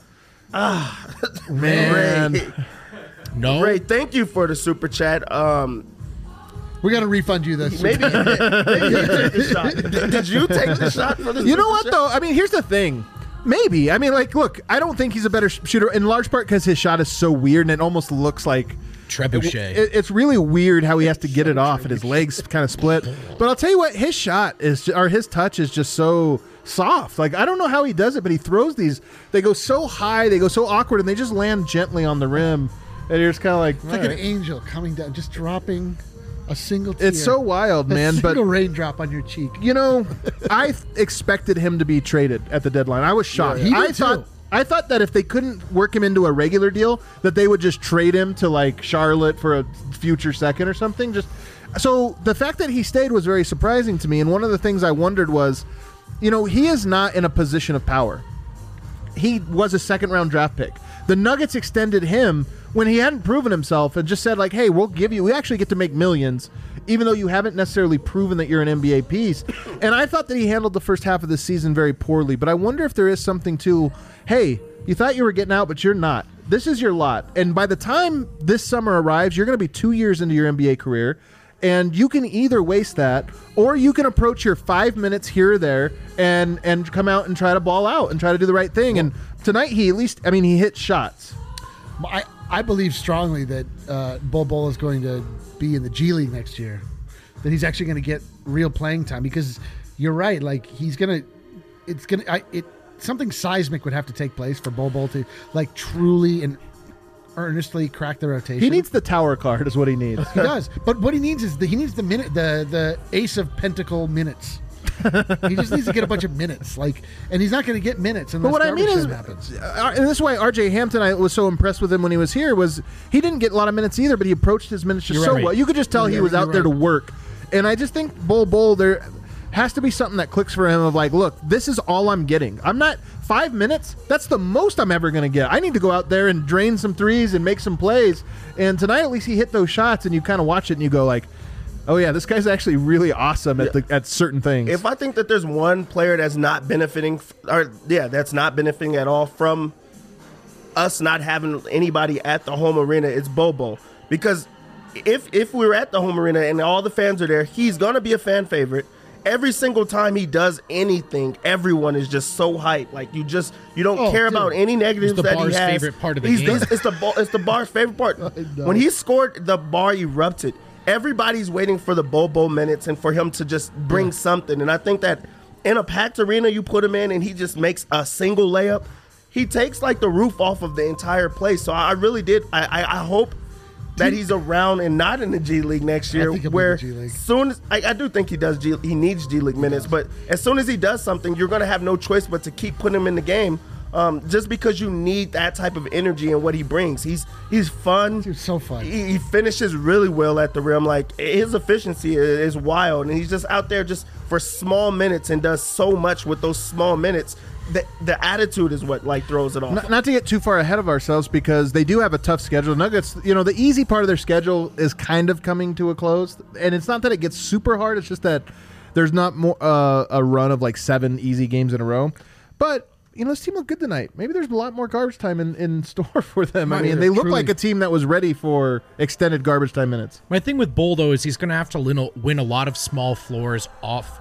MPJ? Man. Ray, No. Ray, thank you for the super chat. We got to refund you this. Maybe you take the shot. Did you take the shot for the You know super what, chat? though? I mean, here's the thing. Maybe. I mean, like, look, I don't think he's a better shooter, in large part because his shot is so weird and it almost looks like... Trebuchet. It's really weird how he has to get it off and his legs kind of split. But I'll tell you what, his shot is, or his touch is just so soft. Like, I don't know how he does it, but he throws these. They go so high, they go so awkward, and they just land gently on the rim. And you're just kind of like, It's like an angel coming down, just dropping a single tear. it's so wild, man. A But single raindrop on your cheek. you know, I expected him to be traded at the deadline. I was shocked. he did too. I thought that if they couldn't work him into a regular deal, that they would just trade him to like Charlotte for a future second or something. Just so the fact that he stayed was very surprising to me. And one of the things I wondered was, you know, he is not in a position of power. He was a second round draft pick. The Nuggets extended him when he hadn't proven himself and just said like, hey, we actually get to make millions, even though you haven't necessarily proven that you're an NBA piece. And I thought that he handled the first half of the season very poorly, but I wonder if there is something to, hey, you thought you were getting out, but you're not. This is your lot. And by the time this summer arrives, you're going to be 2 years into your NBA career, and you can either waste that or you can approach your 5 minutes here or there and come out and try to ball out and try to do the right thing. And tonight he hit shots. I believe strongly that Bol Bol is going to be in the G League next year. That he's actually going to get real playing time because you're right. Like something seismic would have to take place for Bol Bol to like truly and earnestly crack the rotation. He needs the tower card is what he needs. He does, but what he needs is the ace of pentacle minutes. He just needs to get a bunch of minutes, and he's not going to get minutes unless But what I mean is, happens. and this is why R.J. Hampton, I was so impressed with him when he was here, was he didn't get a lot of minutes either, but he approached his minutes just You're so right. well. You could just tell he was out there to work. And I just think Bol, there has to be something that clicks for him of like, look, this is all I'm getting. I'm not 5 minutes. That's the most I'm ever going to get. I need to go out there and drain some threes and make some plays. And tonight, at least he hit those shots, and you kind of watch it and you go like, oh yeah, this guy's actually really awesome at certain things. If I think that there's one player that's not benefiting, that's not benefiting at all from us not having anybody at the home arena, it's Bobo. Because if we were at the home arena and all the fans are there, he's gonna be a fan favorite. Every single time he does anything, everyone is just so hyped. Like you don't care about any negatives It's the that he bar's has. favorite part of the game. It's the bar's favorite part. When he scored, the bar erupted. Everybody's waiting for the Bobo minutes and for him to just bring something. And I think that in a packed arena, you put him in and he just makes a single layup. He takes like the roof off of the entire place. So I really did. I hope that he's around and not in the G League next year. think he'll be in Where the G League. soon as I do think he needs G League minutes. But as soon as he does something, you're going to have no choice but to keep putting him in the game. just because you need that type of energy and what he brings. He's fun. Dude, so fun. He finishes really well at the rim. Like, his efficiency is wild, and he's just out there just for small minutes and does so much with those small minutes. The attitude is what like throws it off. Not to get too far ahead of ourselves, because they do have a tough schedule. Nuggets, the easy part of their schedule is kind of coming to a close, and it's not that it gets super hard. It's just that there's not more a run of like 7 easy games in a row. But this team looked good tonight. Maybe there's a lot more garbage time in store for them. I mean, they look like a team that was ready for extended garbage time minutes. My thing with Bull, though, is he's going to have to win a lot of small wars off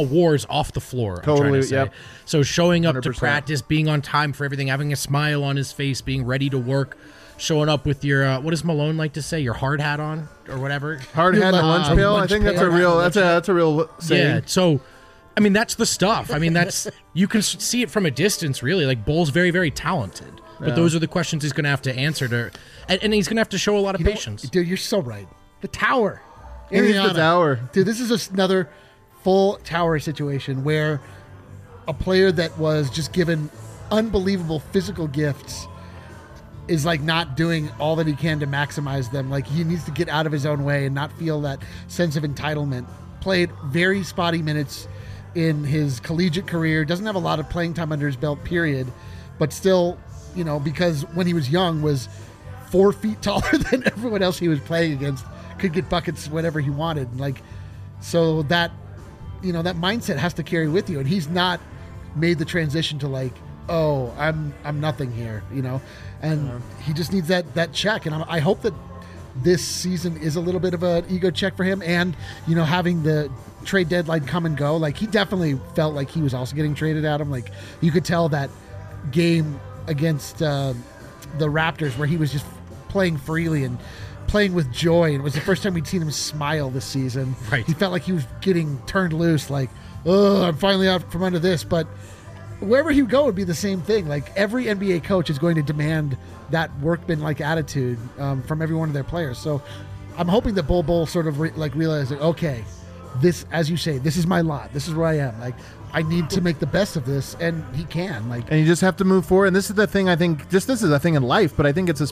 the floor. Totally, I'm trying to say. yep. So showing up to 100%. practice, being on time for everything, having a smile on his face, being ready to work, showing up with your what does Malone like to say? Your hard hat on or whatever. Hard hat and lunch pail. I think that's a real. That's a real saying. Yeah. So, I mean, that's the stuff. I mean, that's you can see it from a distance, really. Like, Bull's very, very talented, but those are the questions he's going to have to answer and he's going to have to show a lot of patience. Dude, you're so right. The tower. It is the Indiana. tower. Dude, this is another full tower situation where a player that was just given unbelievable physical gifts is like not doing all that he can to maximize them. Like, he needs to get out of his own way and not feel that sense of entitlement. Played very spotty minutes in his collegiate career, doesn't have a lot of playing time under his belt, period, but still, because when he was young was 4 feet taller than everyone else he was playing against, could get buckets whenever he wanted. Like, so that, that mindset has to carry with you, and he's not made the transition to like, oh, I'm nothing here, and he just needs that check, and I hope that this season is a little bit of an ego check for him, and having the trade deadline come and go, like, he definitely felt like he was also getting traded at him. Like, you could tell that game against the Raptors where he was just playing freely and playing with joy, and it was the first time we'd seen him smile this season. Right. He felt like he was getting turned loose, like, oh, I'm finally out from under this. But wherever he would go would be the same thing. Like, every NBA coach is going to demand that workman-like attitude from every one of their players. So I'm hoping that Bull sort of realizes, okay, this, as you say, this is my lot. This is where I am. Like, I need to make the best of this, and he can. Like, and you just have to move forward. And this is the thing, I think. This is a thing in life, but I think it's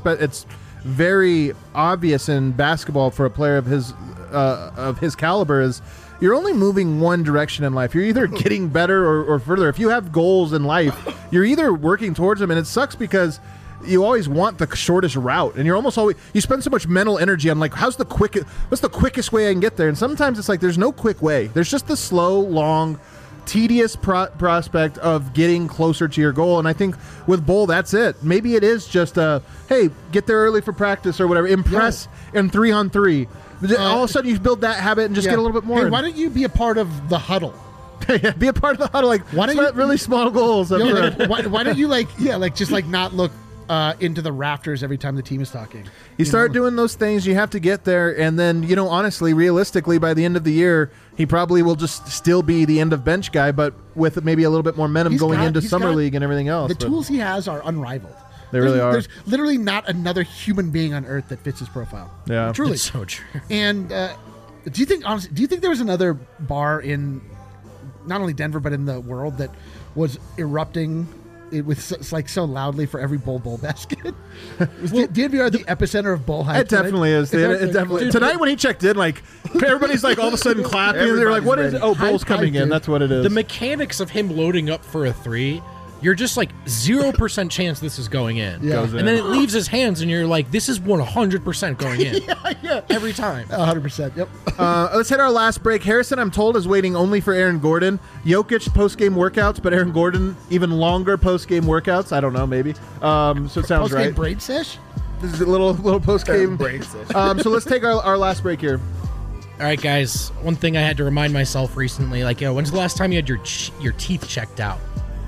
very obvious in basketball for a player of his caliber is you're only moving one direction in life. You're either getting better or further. If you have goals in life, you're either working towards them, and it sucks because you always want the shortest route, and you're almost always, you spend so much mental energy on like, what's the quickest way I can get there? And sometimes it's like there's no quick way. There's just the slow, long, tedious prospect of getting closer to your goal. And I think with Bull, that's it. Maybe it is just hey, get there early for practice or whatever. Impress in 3-on-3. All of a sudden you build that habit and just get a little bit more. Hey, why don't you be a part of the huddle? Be a part of the huddle. Like, why don't you really small goals? why don't you not look into the rafters every time the team is talking? You start doing those things, you have to get there, and then, honestly, realistically, by the end of the year, he probably will just still be the end of bench guy, but with maybe a little bit more momentum going into Summer League and everything else. The tools he has are unrivaled. They really are. There's literally not another human being on earth that fits his profile. Yeah. Truly. It's so true. And do you think there was another bar in not only Denver but in the world that was erupting with so loudly for every Bull basket? Was DNVR the epicenter of Bull hype? It definitely is. It definitely. Tonight when he checked in, like, everybody's like all of a sudden clapping. They're like, "What is it? Oh, Bull's coming in." That's what it is. The mechanics of him loading up for a 3, you're just like 0% chance this is going in. Yeah. Goes in. And then it leaves his hands, and you're like, this is 100% going in. yeah. Every time. 100%. Yep. Let's hit our last break. Harrison, I'm told, is waiting only for Aaron Gordon. Jokic post-game workouts, but Aaron Gordon even longer post-game workouts. I don't know, maybe. So it sounds Post-game right. braid sesh? This is a little post-game. So let's take our last break here. All right, guys. One thing I had to remind myself recently, like, when's the last time you had your teeth checked out?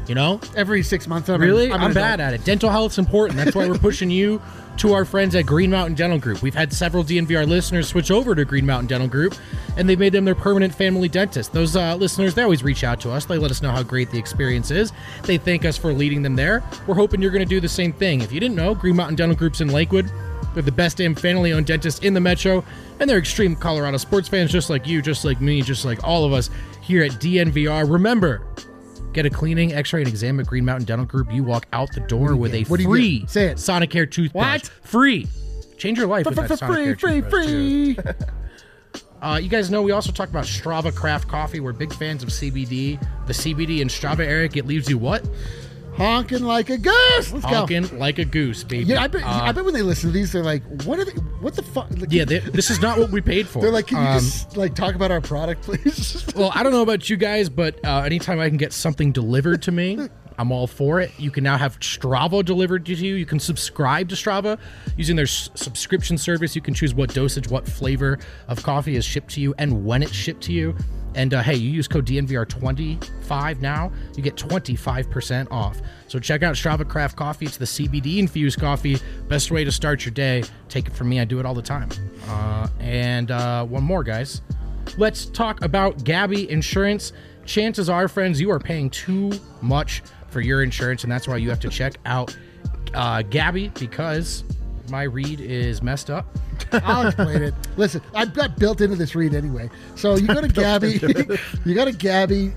Every 6 months. Really? I'm I'm bad at it. Dental health's important. That's why we're pushing you to our friends at Green Mountain Dental Group. We've had several DNVR listeners switch over to Green Mountain Dental Group, and they've made them their permanent family dentist. Those listeners, they always reach out to us. They let us know how great the experience is. They thank us for leading them there. We're hoping you're going to do the same thing. If you didn't know, Green Mountain Dental Group's in Lakewood. They're the best damn family-owned dentist in the metro, and they're extreme Colorado sports fans just like you, just like me, just like all of us here at DNVR. Remember, Get a cleaning, x-ray, and exam at Green Mountain Dental Group. You walk out the door with a What do you free get? Say it. Sonicare toothbrush. What? Free. Change your life with that Free, Sonicare free, toothbrush, too. free. You guys know we also talked about Strava Craft Coffee. We're big fans of CBD. The CBD in Strava, Eric, it leaves you what? Honking like a goose. Let's go. Honking like a goose, baby. Yeah, I bet when they listen to these, they're like, "What are they? What the fuck?" Like, Yeah, this is not what we paid for. they're like, "Can you just like talk about our product, please?" Well, I don't know about you guys, but anytime I can get something delivered to me, I'm all for it. You can now have Strava delivered to you. You can subscribe to Strava using their subscription service. You can choose what dosage, what flavor of coffee is shipped to you, and when it's shipped to you. And hey, you use code DNVR25 now, you get 25% off. So check out Strava Craft Coffee. It's the CBD infused coffee. Best way to start your day. Take it from me. I do it all the time. And one more, guys. Let's talk about Gabi Insurance. Chances are, friends, you are paying too much for your insurance, and that's why you have to check out Gabi, because my read is messed up. I'll explain it. Listen, I've got built into this read anyway. So you go to Gabi, you go to Gabi,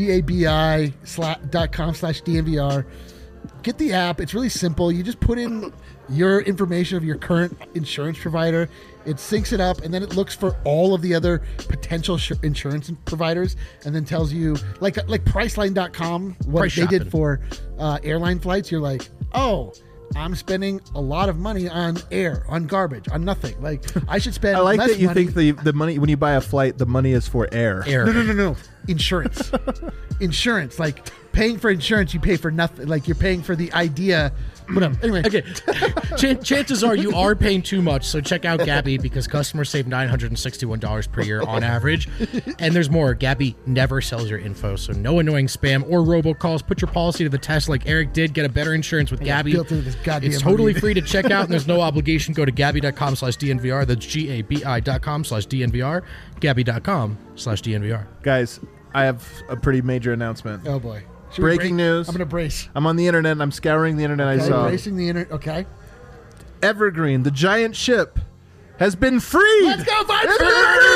GABI.com/DNVR. Get the app. It's really simple. You just put in your information of your current insurance provider. It syncs it up, and then it looks for all of the other potential insurance providers, and then tells you, like Priceline.com, what Price they shopping. did for airline flights. You're like, oh, I'm spending a lot of money on air, on garbage, on nothing. Like, I should spend I like less that you money. think the money when you buy a flight, the money is for air. No. Insurance. Insurance. Like, paying for insurance, you pay for nothing. Like, you're paying for the idea. Whatever. Anyway. Okay. Chances are you are paying too much, so check out Gabi, because customers save $961 per year on average. And there's more. Gabi never sells your info, so no annoying spam or robocalls. Put your policy to the test like Eric did. Get a better insurance with Gabi. built into this goddamn It's totally money. free to check out, and there's no obligation. Go to Gabi.com/DNVR. That's GABI.com/DNVR. Gabi.com/DNVR. Guys, I have a pretty major announcement. Oh, boy. Should we Breaking news. I'm going to brace. I'm on the internet and I'm scouring the internet. I saw Bracing the internet. Okay. Evergreen, the giant ship, has been freed. Let's go, Viper! Hit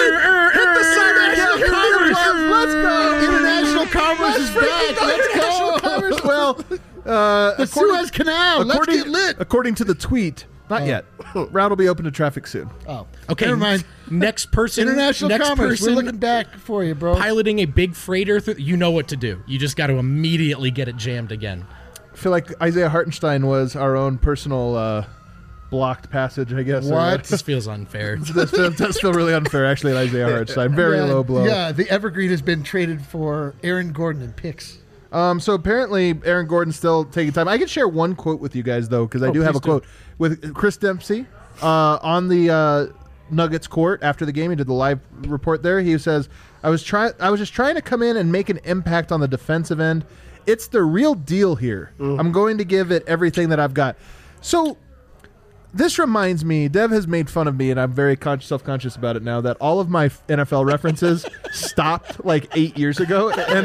the Cyber Commerce. Let's go. International commerce is back. Let's go. Commerce. Well, The Suez Canal. Let's get lit. According to the tweet, not yet. Route will be open to traffic soon. Oh, Okay. never mind. Next person. International next commerce. person We're looking back for you, bro. piloting a big freighter. You know what to do. You just got to immediately get it jammed again. I feel like Isaiah Hartenstein was our own personal blocked passage, I guess. What? This feels unfair. That does feel really unfair, actually, at Isaiah Hartenstein. Very Yeah, low blow. Yeah, the Evergreen has been traded for Aaron Gordon and picks. So apparently Aaron Gordon's still taking time. I can share one quote with you guys, though, because I do have a please do. quote with Chris Dempsey on the Nuggets court after the game. He did the live report there. He says, I was just trying to come in and make an impact on the defensive end. It's the real deal here. I'm going to give it everything that I've got. So this reminds me, Dev has made fun of me, and I'm very self-conscious about it now, that all of my NFL references stopped like 8 years ago, and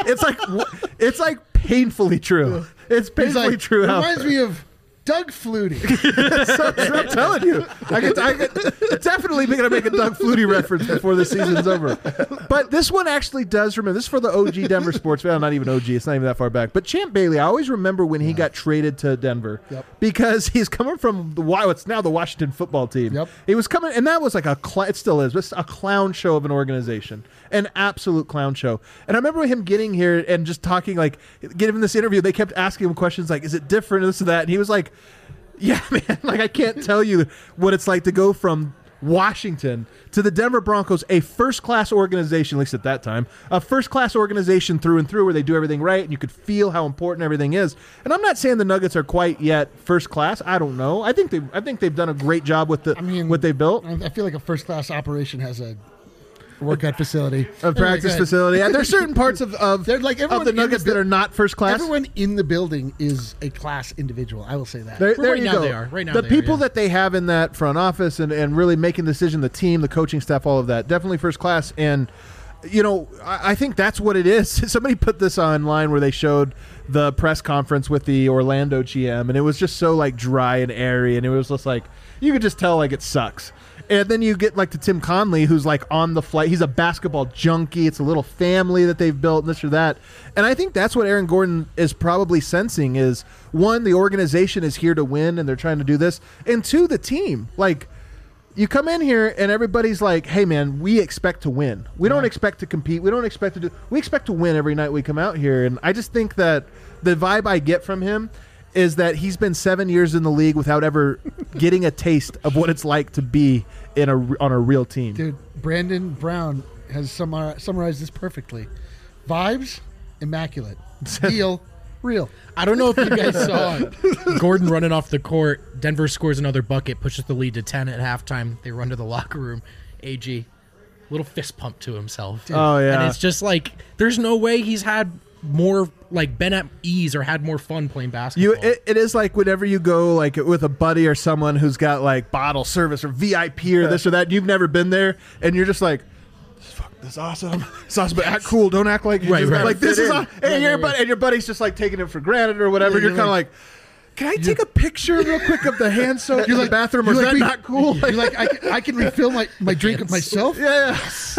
it's like painfully true. It's He's painfully like, true. reminds me of Doug Flutie. I'm telling you, I could definitely going to make a Doug Flutie reference before the season's over. But this one actually does remember. This is for the OG Denver sports fan. Not even OG. It's not even that far back. But Champ Bailey, I always remember when he got traded to Denver because he's coming from what's now the Washington football team. Yep. He was coming, and that was like it still is, but a clown show of an organization, an absolute clown show. And I remember him getting here and just talking, like, giving this interview. They kept asking him questions like, "Is it different?" This and that, and he was like, "Yeah, man, like I can't tell you what it's like to go from Washington to the Denver Broncos, a first-class organization, at least at that time, a first-class organization through and through where they do everything right, and you could feel how important everything is." And I'm not saying the Nuggets are quite yet first class. I don't know. I think they've done a great job with what they built. I feel like a first-class operation has a workout facility. A practice facility. And there's certain parts of They're like everyone the in the Nuggets that are not first class. Everyone in the building is a class individual. I will say that. There Right you now go. they are. Right now the they are, people yeah. that they have in that front office and really making the decision, the team, the coaching staff, all of that, definitely first class. And, you know, I think that's what it is. Somebody put this online where they showed the press conference with the Orlando GM, and it was just so, like, dry and airy, and it was just like, you could just tell, like, it sucks. And then you get like to Tim Conley, who's like on the flight. He's a basketball junkie. It's a little family that they've built, this or that. And I think that's what Aaron Gordon is probably sensing is, one, the organization is here to win and they're trying to do this. And two, the team. Like, you come in here and everybody's like, hey, man, we expect to win. We don't expect to compete. We don't expect to do – we expect to win every night we come out here. And I just think that the vibe I get from him is that he's been 7 years in the league without ever getting a taste of what it's like to be on a real team. Dude, Brandon Brown has summarized this perfectly. Vibes, immaculate. Deal, real. I don't know if you guys saw Gordon running off the court. Denver scores another bucket, pushes the lead to 10 at halftime. They run to the locker room. AG, little fist pump to himself. Oh, yeah. And it's just like, there's no way he's had more, like, been at ease or had more fun playing basketball. It is like whenever you go like with a buddy or someone who's got like bottle service or VIP or this or that, you've never been there, and you're just like, fuck, this is awesome. It's awesome, but act cool. Don't act like Right. like this is in. and your buddy's just like taking it for granted or whatever. Yeah, you're you're kind of like, can I take a picture real quick of the hand soap in the bathroom, or is that not cool? You're like, I can refill my drink of myself? Yeah.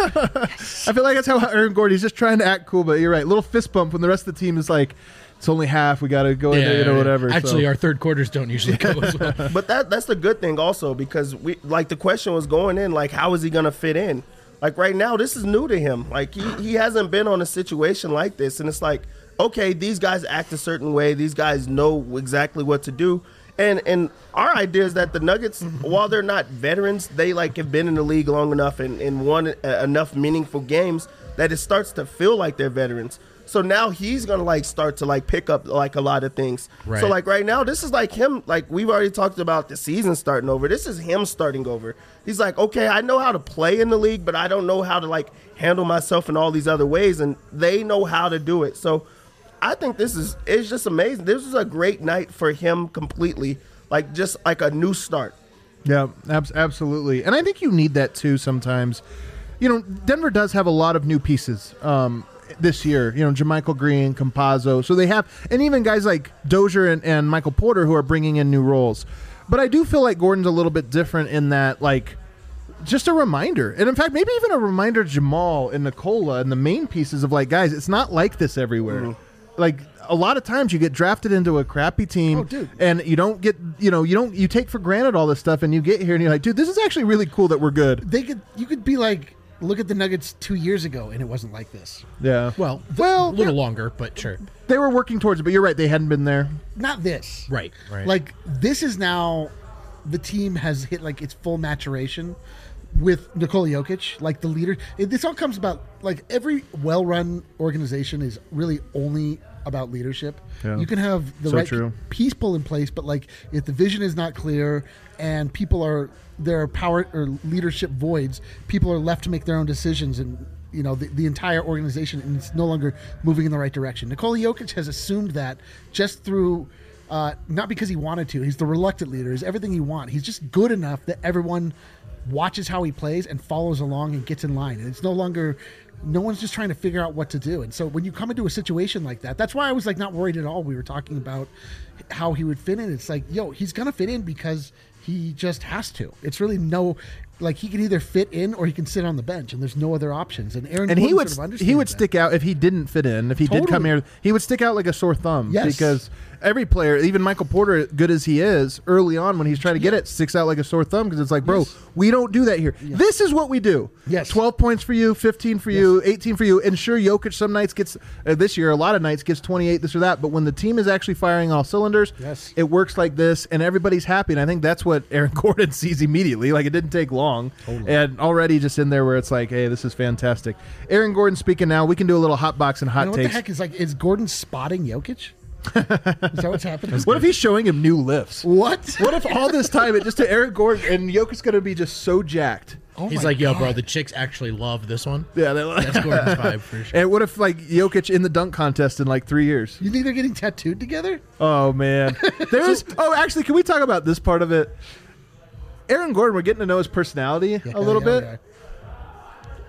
I feel like that's how Aaron Gordon, he's just trying to act cool, but you're right. Little fist bump when the rest of the team is like, it's only half. We got to go in there, whatever. Actually, so. our third quarters don't usually go as well. But that's the good thing also, because we like the question was going in, like, how is he gonna fit in? Like right now, this is new to him. Like he hasn't been on a situation like this, and it's like, okay, these guys act a certain way. These guys know exactly what to do. And our idea is that the Nuggets, while they're not veterans, they like have been in the league long enough and won enough meaningful games that it starts to feel like they're veterans. So now he's gonna like start to like pick up like a lot of things. Right. So like right now, this is like him. Like we've already talked about the season starting over. This is him starting over. He's like, okay, I know how to play in the league, but I don't know how to like handle myself in all these other ways, and they know how to do it. So I think it's just amazing. This is a great night for him completely, like just like a new start. Yeah, absolutely. And I think you need that too sometimes. You know, Denver does have a lot of new pieces this year. You know, JaMychal Green, Campazzo. So they have, and even guys like Dozier and Michael Porter who are bringing in new roles. But I do feel like Gordon's a little bit different in that, like, just a reminder. And in fact, maybe even a reminder to Jamal and Nikola and the main pieces of like, guys, it's not like this everywhere. Mm-hmm. Like a lot of times you get drafted into a crappy team, Oh, dude. and you don't get, you take for granted all this stuff, and you get here and you're like, dude, this is actually really cool that we're good. You could be like, look at the Nuggets 2 years ago, and it wasn't like this. Yeah. Well, a little longer, but sure. They were working towards it, but you're right, they hadn't been there. Not this. Right. Like, this is now, the team has hit like its full maturation with Nikola Jokic, like the leader. This all comes about, like, every well-run organization is really only about leadership. Yeah. You can have the So right true. people in place, but like if the vision is not clear and there are power or leadership voids, people are left to make their own decisions, and the entire organization, and it's no longer moving in the right direction. Nikola Jokic has assumed that just through not because he wanted to. He's the reluctant leader. He's everything you want. He's just good enough that everyone watches how he plays and follows along and gets in line. And it's no longer, no one's just trying to figure out what to do. And so when you come into a situation like that, that's why I was like not worried at all. We were talking about how he would fit in. It's like, he's going to fit in because he just has to. It's really like he can either fit in or he can sit on the bench, and there's no other options. And Aaron And Gordon he would sort of understands that. stick out if he didn't fit in. If he did come Totally. here, he would stick out like a sore thumb. Yes. Because every player, even Michael Porter, good as he is, early on when he's trying to get it, sticks out like a sore thumb because it's like, bro, Yes. we don't do that here. This is what we do. Yes. 12 points for you, 15 for you, 18 for you. And sure, Jokic some nights gets, this year, a lot of nights gets 28, this or that. But when the team is actually firing all cylinders, Yes. it works like this, and everybody's happy. And I think that's what Aaron Gordon sees immediately. Like, it didn't take long. Totally. And already just in there where it's like, hey, this is fantastic. Aaron Gordon speaking now. We can do a little hot box and hot What the takes. heck is Gordon spotting Jokic? Is that what's happening? What if he's showing him new lifts? What? What if all this time it just to Aaron Gordon and Jokic's going to be just so jacked? Oh He's my like, yo, God. bro, the chicks actually love this one. Yeah, That's Gordon's vibe for sure. And what if like Jokic in the dunk contest in like 3 years? You think they're getting tattooed together? Oh man, there's. Actually, can we talk about this part of it? Aaron Gordon, we're getting to know his personality a little bit.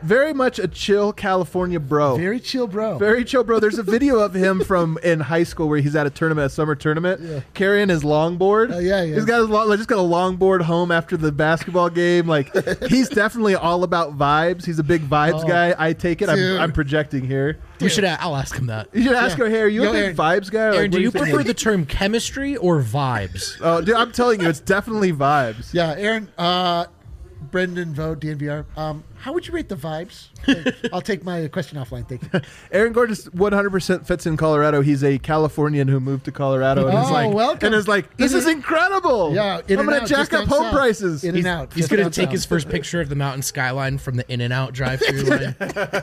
very much a chill California bro. Very chill, bro. Very chill, bro. There's a video of him from in high school where he's at a tournament, a summer tournament, carrying his longboard. Yeah. He's got just got a longboard home after the basketball game. Like he's definitely all about vibes. He's a big vibes guy. I take it. I'm projecting here. We should. I'll ask him that. You should ask him, hey, are you a big Aaron. vibes guy? Aaron, Like, do what you think? prefer the term chemistry or vibes? Oh, dude, I'm telling you, it's definitely vibes. Yeah, Aaron, Brendan Vogt, DNVR. How would you rate the vibes? I'll take my question offline. Thank you. Aaron Gordon 100% fits in Colorado. He's a Californian who moved to Colorado and welcome. is like, this is incredible. Yeah, I'm going to jack up home prices. In and out. He's going to take his first picture of the mountain skyline from the In-N-Out drive-through line.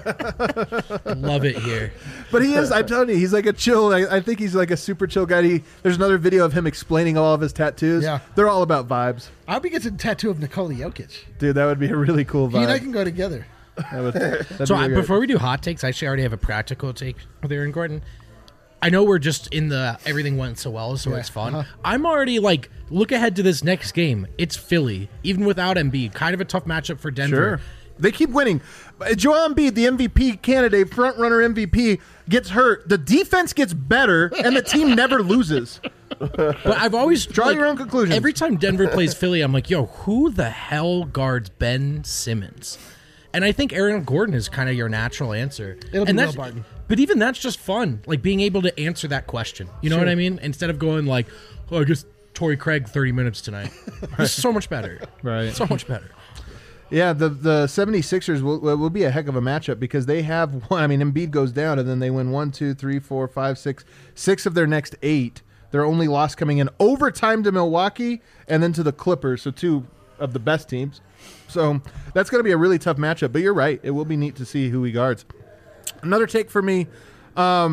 Love it here. But he is, I'm telling you, he's like a chill. I think he's like a super chill guy. There's another video of him explaining all of his tattoos. Yeah. They're all about vibes. I hope he gets a tattoo of Nikola Jokic. Dude, that would be a really cool vibe. He and I can go together. That'd So be really before we do hot takes, I actually already have a practical take with Aaron Gordon. I know we're just in the everything went so well, so it's fun. I'm already like, look ahead to this next game. It's Philly, even without Embiid. Kind of a tough matchup for Denver. Sure. They keep winning. Joel Embiid, the MVP candidate, front runner MVP, gets hurt. The defense gets better, and the team never loses. But I've always Draw your own conclusions. Every time Denver plays Philly, I'm like, yo, who the hell guards Ben Simmons? And I think Aaron Gordon is kind of your natural answer. It'll be and Will Barton. But even that's just fun, like being able to answer that question. You know what I mean? Instead of going like, oh, I guess Torrey Craig 30 minutes tonight. This is so much better. Right. So much better. Yeah, the 76ers will be a heck of a matchup because they have one. I mean, Embiid goes down, and then they win 1, 2, 3, 4, 5, 6 of their next 8. Their only loss coming in overtime to Milwaukee and then to the Clippers, so 2 of the best teams. So that's going to be a really tough matchup. But you're right; it will be neat to see who he guards. Another take for me. I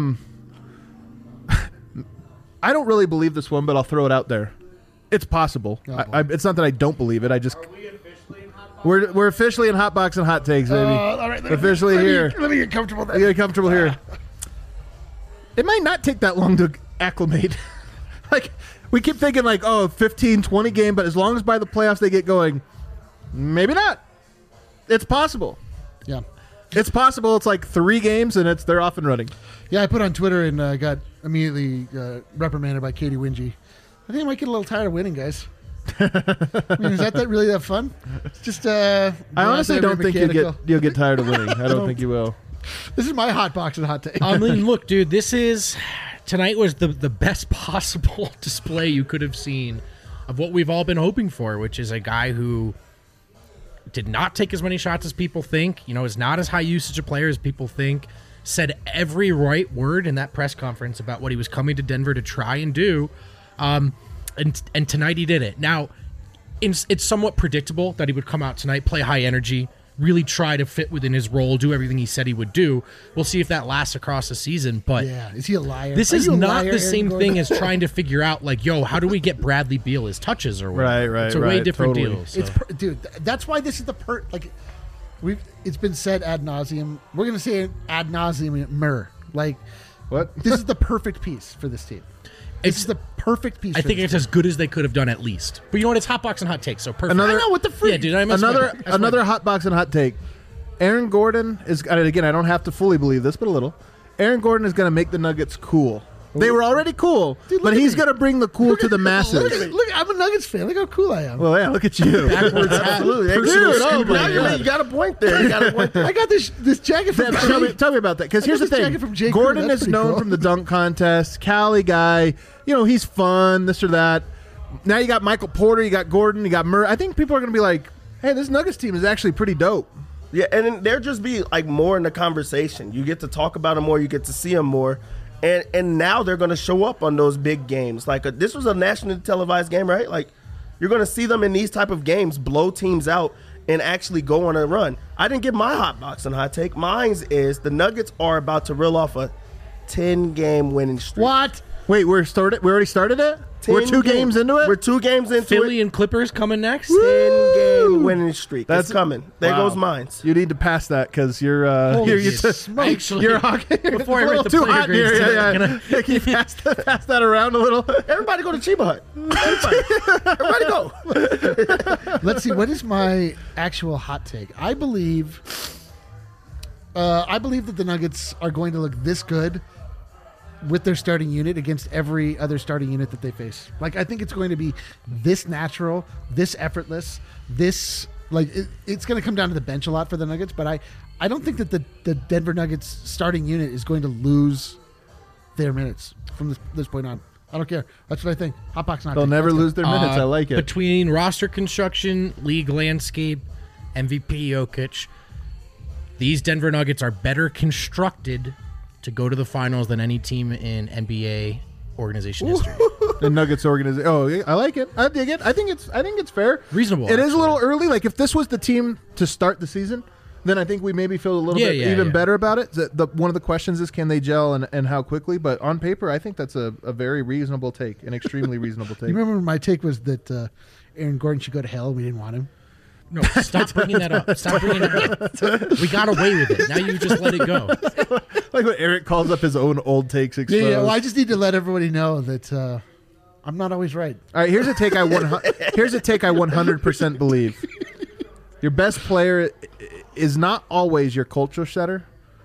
don't really believe this one, but I'll throw it out there. It's possible. It's not that I don't believe it. I just. We're officially in Hot Box and Hot Takes, baby. All right, Officially here. Let me get comfortable there. Get comfortable here. It might not take that long to acclimate. Like, we keep thinking like, 15, 20 game, but as long as by the playoffs they get going, maybe not. It's possible. Yeah. It's possible. It's like 3 games and they're off and running. Yeah, I put on Twitter and got immediately reprimanded by Katie Wingy. I think I might get a little tired of winning, guys. I mean, is that really that fun? It's just I honestly don't think you'll get tired of winning. I don't think you will. This is my hot box and hot take. I mean, look, dude, tonight was the best possible display you could have seen of what we've all been hoping for, which is a guy who did not take as many shots as people think, is not as high usage a player as people think, said every right word in that press conference about what he was coming to Denver to try and do. And tonight he did it. Now, it's somewhat predictable that he would come out tonight, play high energy, really try to fit within his role, do everything he said he would do. We'll see if that lasts across the season. But yeah, is he a liar? This Are is you a not liar, the Aaron same Gordon? thing as trying to figure out, like, yo, how do we get Bradley Beal his touches or whatever? Right, It's a way different totally. deal. So. Dude, that's why this is it's been said ad nauseum. We're gonna say it ad nauseum. Like, What? this is the perfect piece for this team. This is the perfect piece. I for think this it's as good as they could have done at least. But you know what? It's hot box and hot takes, so perfect. Another- I know what the freak. Yeah, dude. That's Another hot box and hot take. Aaron Gordon is, and again, I don't have to fully believe this, but a little. Aaron Gordon is going to make the Nuggets cool. They were already cool, Dude, but look at he's me. going to bring the cool to the masses. Look at me. Look, I'm a Nuggets fan. Look how cool I am. Well, yeah, look at you. Absolutely. Dude, oh my God. You got a point there. You got a point there. I got this jacket from Tell me about that, because here's the this thing. jacket from J. Crew. Gordon That's is pretty known cool. from the dunk contest, Cali guy. He's fun, this or that. Now you got Michael Porter, you got Gordon, you got Murray. I think people are going to be like, hey, this Nuggets team is actually pretty dope. Yeah, and then there just be like more in the conversation. You get to talk about them more. You get to see them more. And now they're going to show up on those big games. Like this was a nationally televised game, right? Like you're going to see them in these type of games blow teams out and actually go on a run. I didn't get my hot box and hot take. Mine is the Nuggets are about to reel off a 10-game winning streak. What? Wait, we already started it? We're 2 games into it? We're 2 games into Philly it. and Clippers coming next. 10-game winning streak. That's That's- coming. There Wow. goes mine. You need to pass that because you're Actually, you're hockey. before I It's a write little the too player hot grades here. today, Yeah. Can you pass that around a little? Everybody go to Chiba Hut. Everybody go. Let's see. What is my actual hot take? I believe I believe that the Nuggets are going to look this good with their starting unit against every other starting unit that they face. Like, I think it's going to be this natural, this effortless, this like it's going to come down to the bench a lot for the Nuggets. But I don't think that the Denver Nuggets starting unit is going to lose their minutes from this point on. I don't care. That's what I think. Hot Box not. They'll never lose their minutes. I like it. Between roster construction, league landscape, MVP Jokic, these Denver Nuggets are better constructed to go to the finals than any team in NBA organization history. The Nuggets organization. Oh, I like it. I dig it. I think it's fair. Reasonable. It is a little early. Like, if this was the team to start the season, then I think we maybe feel a little bit even better about it. One of the questions is, can they gel and how quickly? But on paper, I think that's a very reasonable take, an extremely reasonable take. You remember my take was that Aaron Gordon should go to hell. We didn't want him. No, stop bringing that up. Stop bringing it up. We got away with it. Now you just let it go. Like when Eric calls up his own old takes exposed. Yeah, well, I just need to let everybody know that I'm not always right. All right, here's a take I 100% believe. Your best player is not always your culture setter.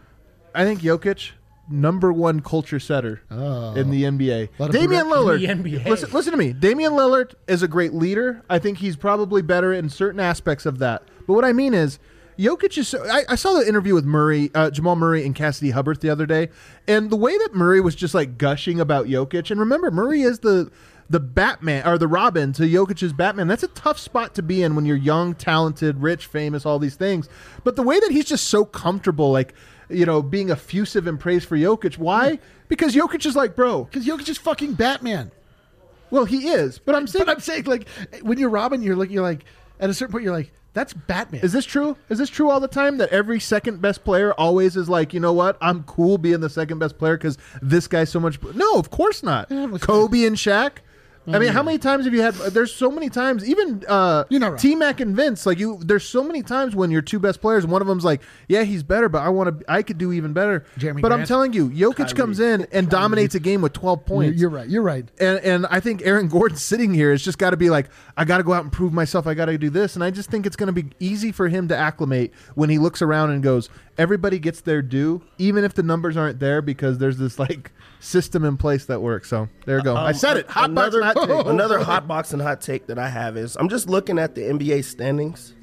I think Jokic, number one culture setter in the NBA. Damian Lillard. In the NBA. Listen to me. Damian Lillard is a great leader. I think he's probably better in certain aspects of that. But what I mean is, Jokic is I saw the interview with Jamal Murray and Cassidy Hubbard the other day, and the way that Murray was just like gushing about Jokic, and remember, Murray is the Batman or the Robin to Jokic's Batman. That's a tough spot to be in when you're young, talented, rich, famous, all these things. But the way that he's just so comfortable, like, you know, being effusive in praise for Jokic. Why? Because Jokic is like, bro. Because Jokic is fucking Batman. Well, he is. But I'm saying, like, when you're Robin, you're like, at a certain point, you're like, that's Batman. Is this true? Is this true all the time, that every second best player always is like, you know what? I'm cool being the second best player because this guy's so much. No, of course not. Kobe and Shaq. I mean, how many times have you had? There's so many times. Even right. T-Mac and Vince. Like there's so many times when your two best players, and one of them's like, yeah, he's better, but I could do even better. Jeremy but Grant. I'm telling you, Jokic comes in and dominates a game with 12 points. You're right. You're right. And I think Aaron Gordon sitting here has just got to be like, I got to go out and prove myself. I got to do this. And I just think it's going to be easy for him to acclimate when he looks around and goes, everybody gets their due, even if the numbers aren't there, because there's this like system in place that works. So there you go. I said it. Another hot box and hot take that I have is, I'm just looking at the NBA standings.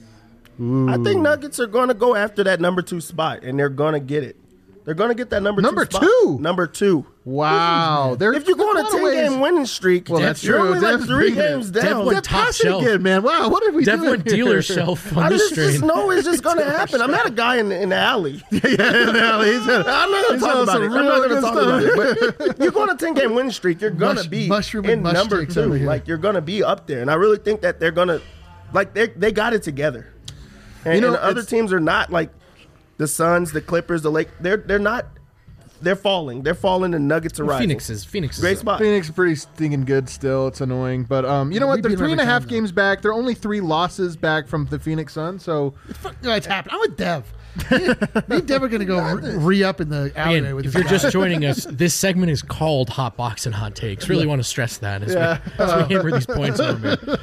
I think Nuggets are going to go after that number 2 spot, and they're going to get it. They're going to get that number 2 spot. Number 2. Wow. If you go on a 10-game winning streak, well, that's you're true. only like 3 games down. Dev went top shelf. Again, man. Wow, what are we Dev doing went here? dealer shelf on this just strain. know it's just going to happen. I met a guy in the alley. Yeah, in the alley. I'm not going to talk about it. I'm not going to talk about it. But you go on a 10-game winning streak, you're going to be in number 2. Like, you're going to be up there. And I really think that they're going to, like, they got it together. And, you know, and the other teams are not like the Suns, the Clippers, the Lakers. They're not. They're falling. They're falling. The Nuggets are rising. Phoenix is great spot. Phoenix is pretty stinking good still. It's annoying. But you know what? They're 3.5 games back. They're only 3 losses back from the Phoenix Suns. So it's happening. I'm with Dev. Me and Dev are going to go re-up in the alleyway with if this you're just joining us, this segment is called Hot Box and Hot Takes. Really want to stress that as we hammer these points home.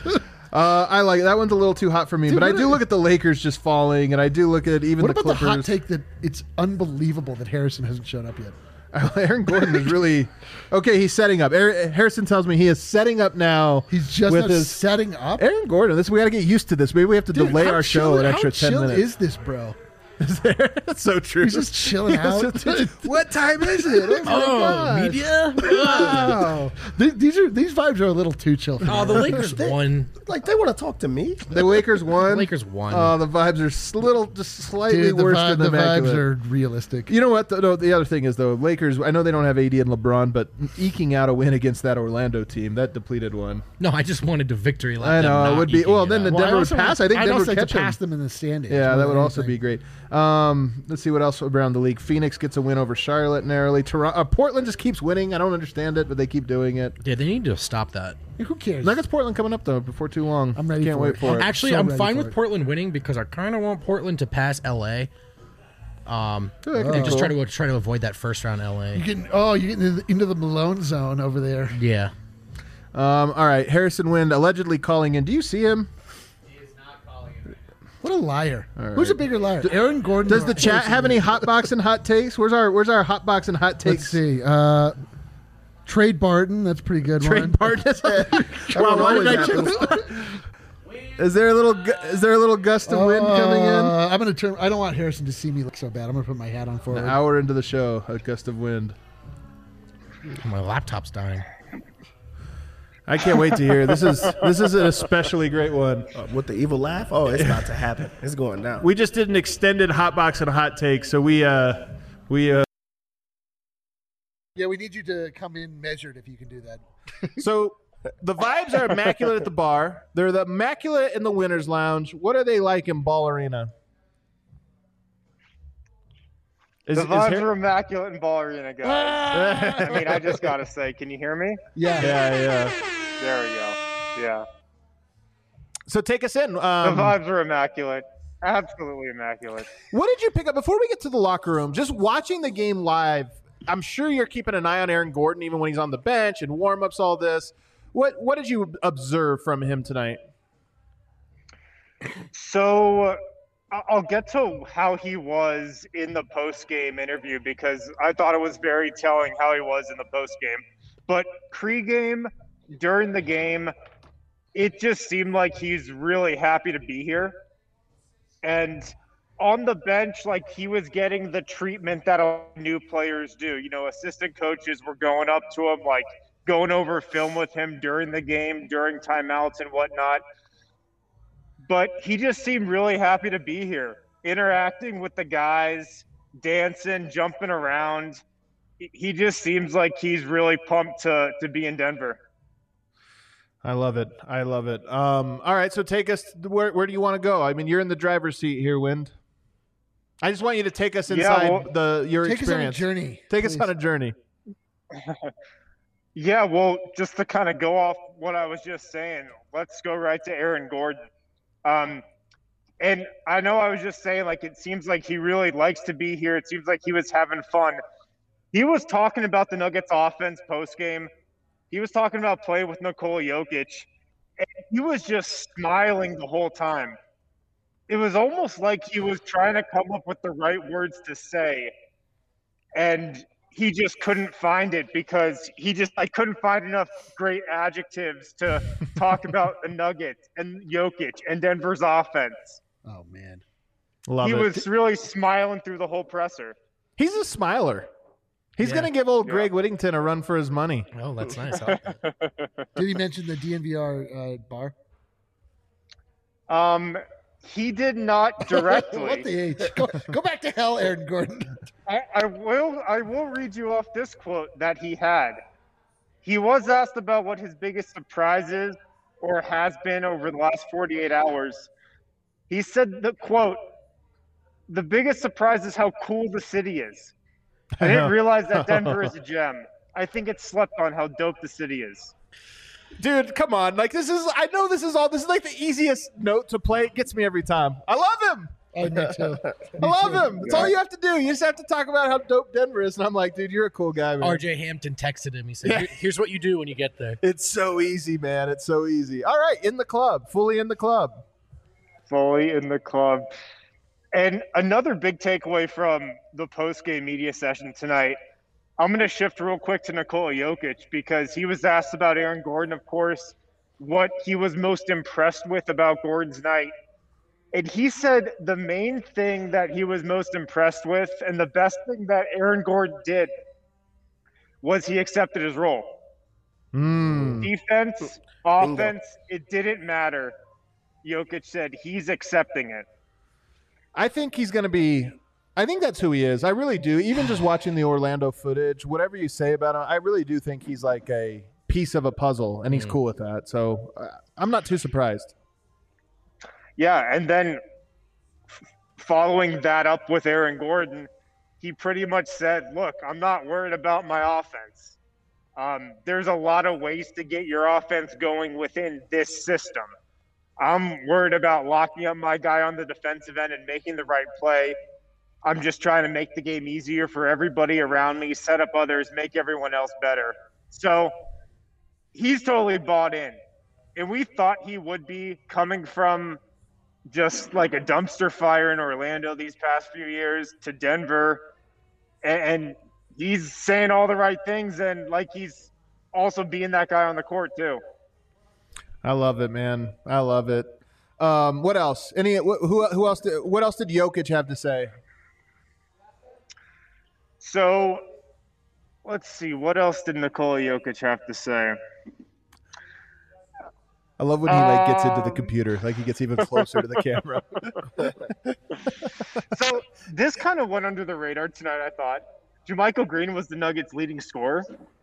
I like it. That one's a little too hot for me, but I do look at the Lakers just falling, and I do look at even the Clippers. What about the hot take that it's unbelievable that Harrison hasn't shown up yet? Aaron Gordon is really okay. He's setting up. Harrison tells me he is setting up now. He's just with his setting up. Aaron Gordon. We got to get used to this. Maybe we have to delay our show an extra 10 minutes. How chill is this, bro? That's so true. He's just chilling out. What time is it? Oh, media. Wow. These vibes are a little too chill. Oh, the Lakers won. Like, they want to talk to me. The Lakers won. The Lakers won. Oh, the vibes are just slightly worse than the immaculate. vibes are realistic. You know what? The other thing is, though, Lakers, I know they don't have AD and LeBron, but eking out a win against that Orlando team, that depleted one. No, I just wanted to victory lap. I know, it would be. Well, then Denver would pass. I think Denver would catch pass them in the standings. Yeah, that would also be great. Let's see what else around the league. Phoenix gets a win over Charlotte narrowly. Portland just keeps winning. I don't understand it, but they keep doing it. Yeah, they need to stop that. Who cares? Nuggets Portland coming up though before too long. I'm ready. Can't wait for it. Actually, I'm fine with Portland winning because I kind of want Portland to pass LA. And just try to avoid that first round LA. You're getting into the Malone zone over there. Yeah. All right, Harrison Wind allegedly calling in. Do you see him? He is not calling him. What a liar. Who's a bigger liar? Aaron Gordon. Does or the chat Harrison have any Wind? hot box and hot takes? Where's our hot box and hot Let's takes? see. Trade Barton. That's a pretty good one. Trade partners. Wow, why did I Is there a little gust of wind coming in? I'm gonna turn. I don't want Harrison to see me look so bad. I'm gonna put my hat on forward. An hour into the show, a gust of wind. My laptop's dying. I can't wait to hear. This is an especially great one. With the evil laugh? Oh, it's about to happen. It's going down. We just did an extended hot box and hot take, so we Yeah, we need you to come in measured if you can do that. so the vibes are immaculate at the bar. They're the immaculate in the winners lounge. What are they like in Ball Arena? The vibes are immaculate in Ball Arena, guys. I mean, I just gotta say, can you hear me? Yeah. yeah. There we go. Yeah. So take us in. The vibes are immaculate. Absolutely immaculate. What did you pick up before we get to the locker room? Just watching the game live, I'm sure you're keeping an eye on Aaron Gordon even when he's on the bench and warm-ups, all this. What did you observe from him tonight? So I'll get to how he was in the post-game interview because I thought it was very telling how he was in the post-game. But pre-game, during the game, it just seemed like he's really happy to be here. And on the bench, like he was getting the treatment that all new players do. You know, assistant coaches were going up to him, like going over film with him during the game, during timeouts and whatnot. But he just seemed really happy to be here, interacting with the guys, dancing, jumping around. He just seems like he's really pumped to be in Denver. I love it. All right, so take us. Where do you want to go? I mean, you're in the driver's seat here, Wind. I just want you to take us inside your Take experience. us on a journey. Take us on a journey. Yeah, well, just to kind of go off what I was just saying, let's go right to Aaron Gordon. And I know I was just saying, like, it seems like he really likes to be here. It seems like he was having fun. He was talking about the Nuggets offense post-game. He was talking about playing with Nikola Jokic. And he was just smiling the whole time. It was almost like he was trying to come up with the right words to say. And he just couldn't find it because I couldn't find enough great adjectives to talk about the Nuggets and Jokic and Denver's offense. Oh man, Love He it. was really smiling through the whole presser. He's a smiler. He's Yeah. going to give old Greg Whittington a run for his money. Oh, that's nice. I like that. did he mention the DNVR bar? He did not directly. What the H? Go back to hell, Aaron Gordon. I will read you off this quote that he had. He was asked about what his biggest surprise is or has been over the last 48 hours. He said the quote, "The biggest surprise is how cool the city is. I didn't realize that Denver is a gem. I think it's slept on how dope the city is." Dude, come on. Like, this is like the easiest note to play. It gets me every time. I love him. Me too. I love him. That's all you have to do. You just have to talk about how dope Denver is. And I'm like, dude, you're a cool guy, man. RJ Hampton texted him. He said, "Here's what you do when you get there." It's so easy, man. It's so easy. All right, in the club. Fully in the club. Fully in the club. And another big takeaway from the post-game media session tonight, I'm going to shift real quick to Nikola Jokic because he was asked about Aaron Gordon, of course, what he was most impressed with about Gordon's night. And he said the main thing that he was most impressed with and the best thing that Aaron Gordon did was he accepted his role. Defense, offense, it didn't matter. Jokic said he's accepting it. I think he's going to be – I think that's who he is. I really do. Even just watching the Orlando footage, whatever you say about him, I really do think he's like a piece of a puzzle, and he's cool with that. So I'm not too surprised. Yeah, and then following that up with Aaron Gordon, he pretty much said, look, I'm not worried about my offense. There's a lot of ways to get your offense going within this system. I'm worried about locking up my guy on the defensive end and making the right play. I'm just trying to make the game easier for everybody around me, set up others, make everyone else better. So he's totally bought in. And we thought he would be coming from just like a dumpster fire in Orlando these past few years to Denver. And he's saying all the right things, and like he's also being that guy on the court too. I love it, man. I love it. What else? Who else? What else did Jokic have to say? So let's see. What else did Nikola Jokic have to say? I love when he gets into the computer, like he gets even closer to the camera. So this kind of went under the radar tonight, I thought. JaMychal Green was the Nuggets' leading scorer.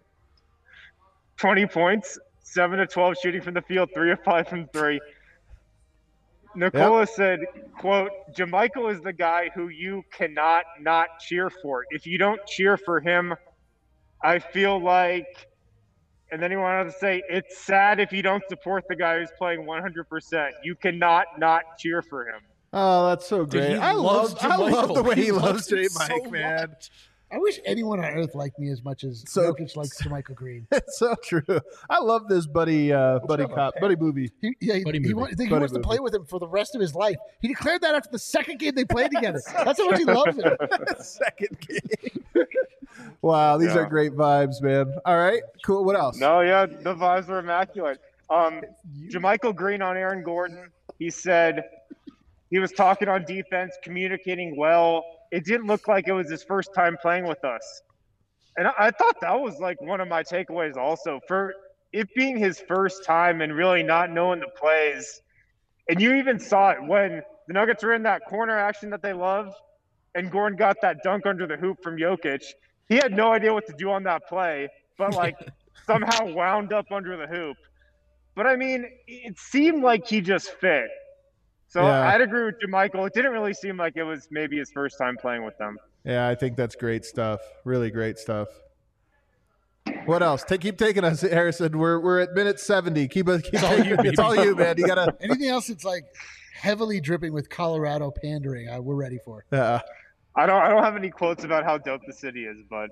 20 points, 7 of 12 shooting from the field, 3 of 5 from 3. Nikola said, quote, JaMychal is the guy who you cannot not cheer for. If you don't cheer for him, I feel like, and then he went on to say, it's sad if you don't support the guy who's playing 100%. You cannot not cheer for him. Oh, that's so great. Dude, I love the way he loves him J. so Mike, man. much. I wish anyone on earth liked me as much as So- Jokic likes Michael Green. It's so true. I love this buddy movie. He Buddy movie. wants to Buddy play with him for the rest of his life. He declared that after the second game they played together. That's how much he loves him. Second game. Wow, these are great vibes, man. All right, cool. What else? No, yeah, the vibes were immaculate. JaMychal Green on Aaron Gordon. He said he was talking on defense, communicating well. It didn't look like it was his first time playing with us. And I thought that was like one of my takeaways also. For it being his first time and really not knowing the plays. And you even saw it when the Nuggets were in that corner action that they love, and Gordon got that dunk under the hoop from Jokic. He had no idea what to do on that play, but like somehow wound up under the hoop. But I mean, it seemed like he just fit. So Yeah. I'd agree with JaMychal. It didn't really seem like it was maybe his first time playing with them. Yeah, I think that's great stuff. Really great stuff. What else? Keep taking us, Harrison. We're at minute 70. It's all you, man. You gotta. Anything else that's like heavily dripping with Colorado pandering, we're ready for. Yeah. I don't have any quotes about how dope the city is, but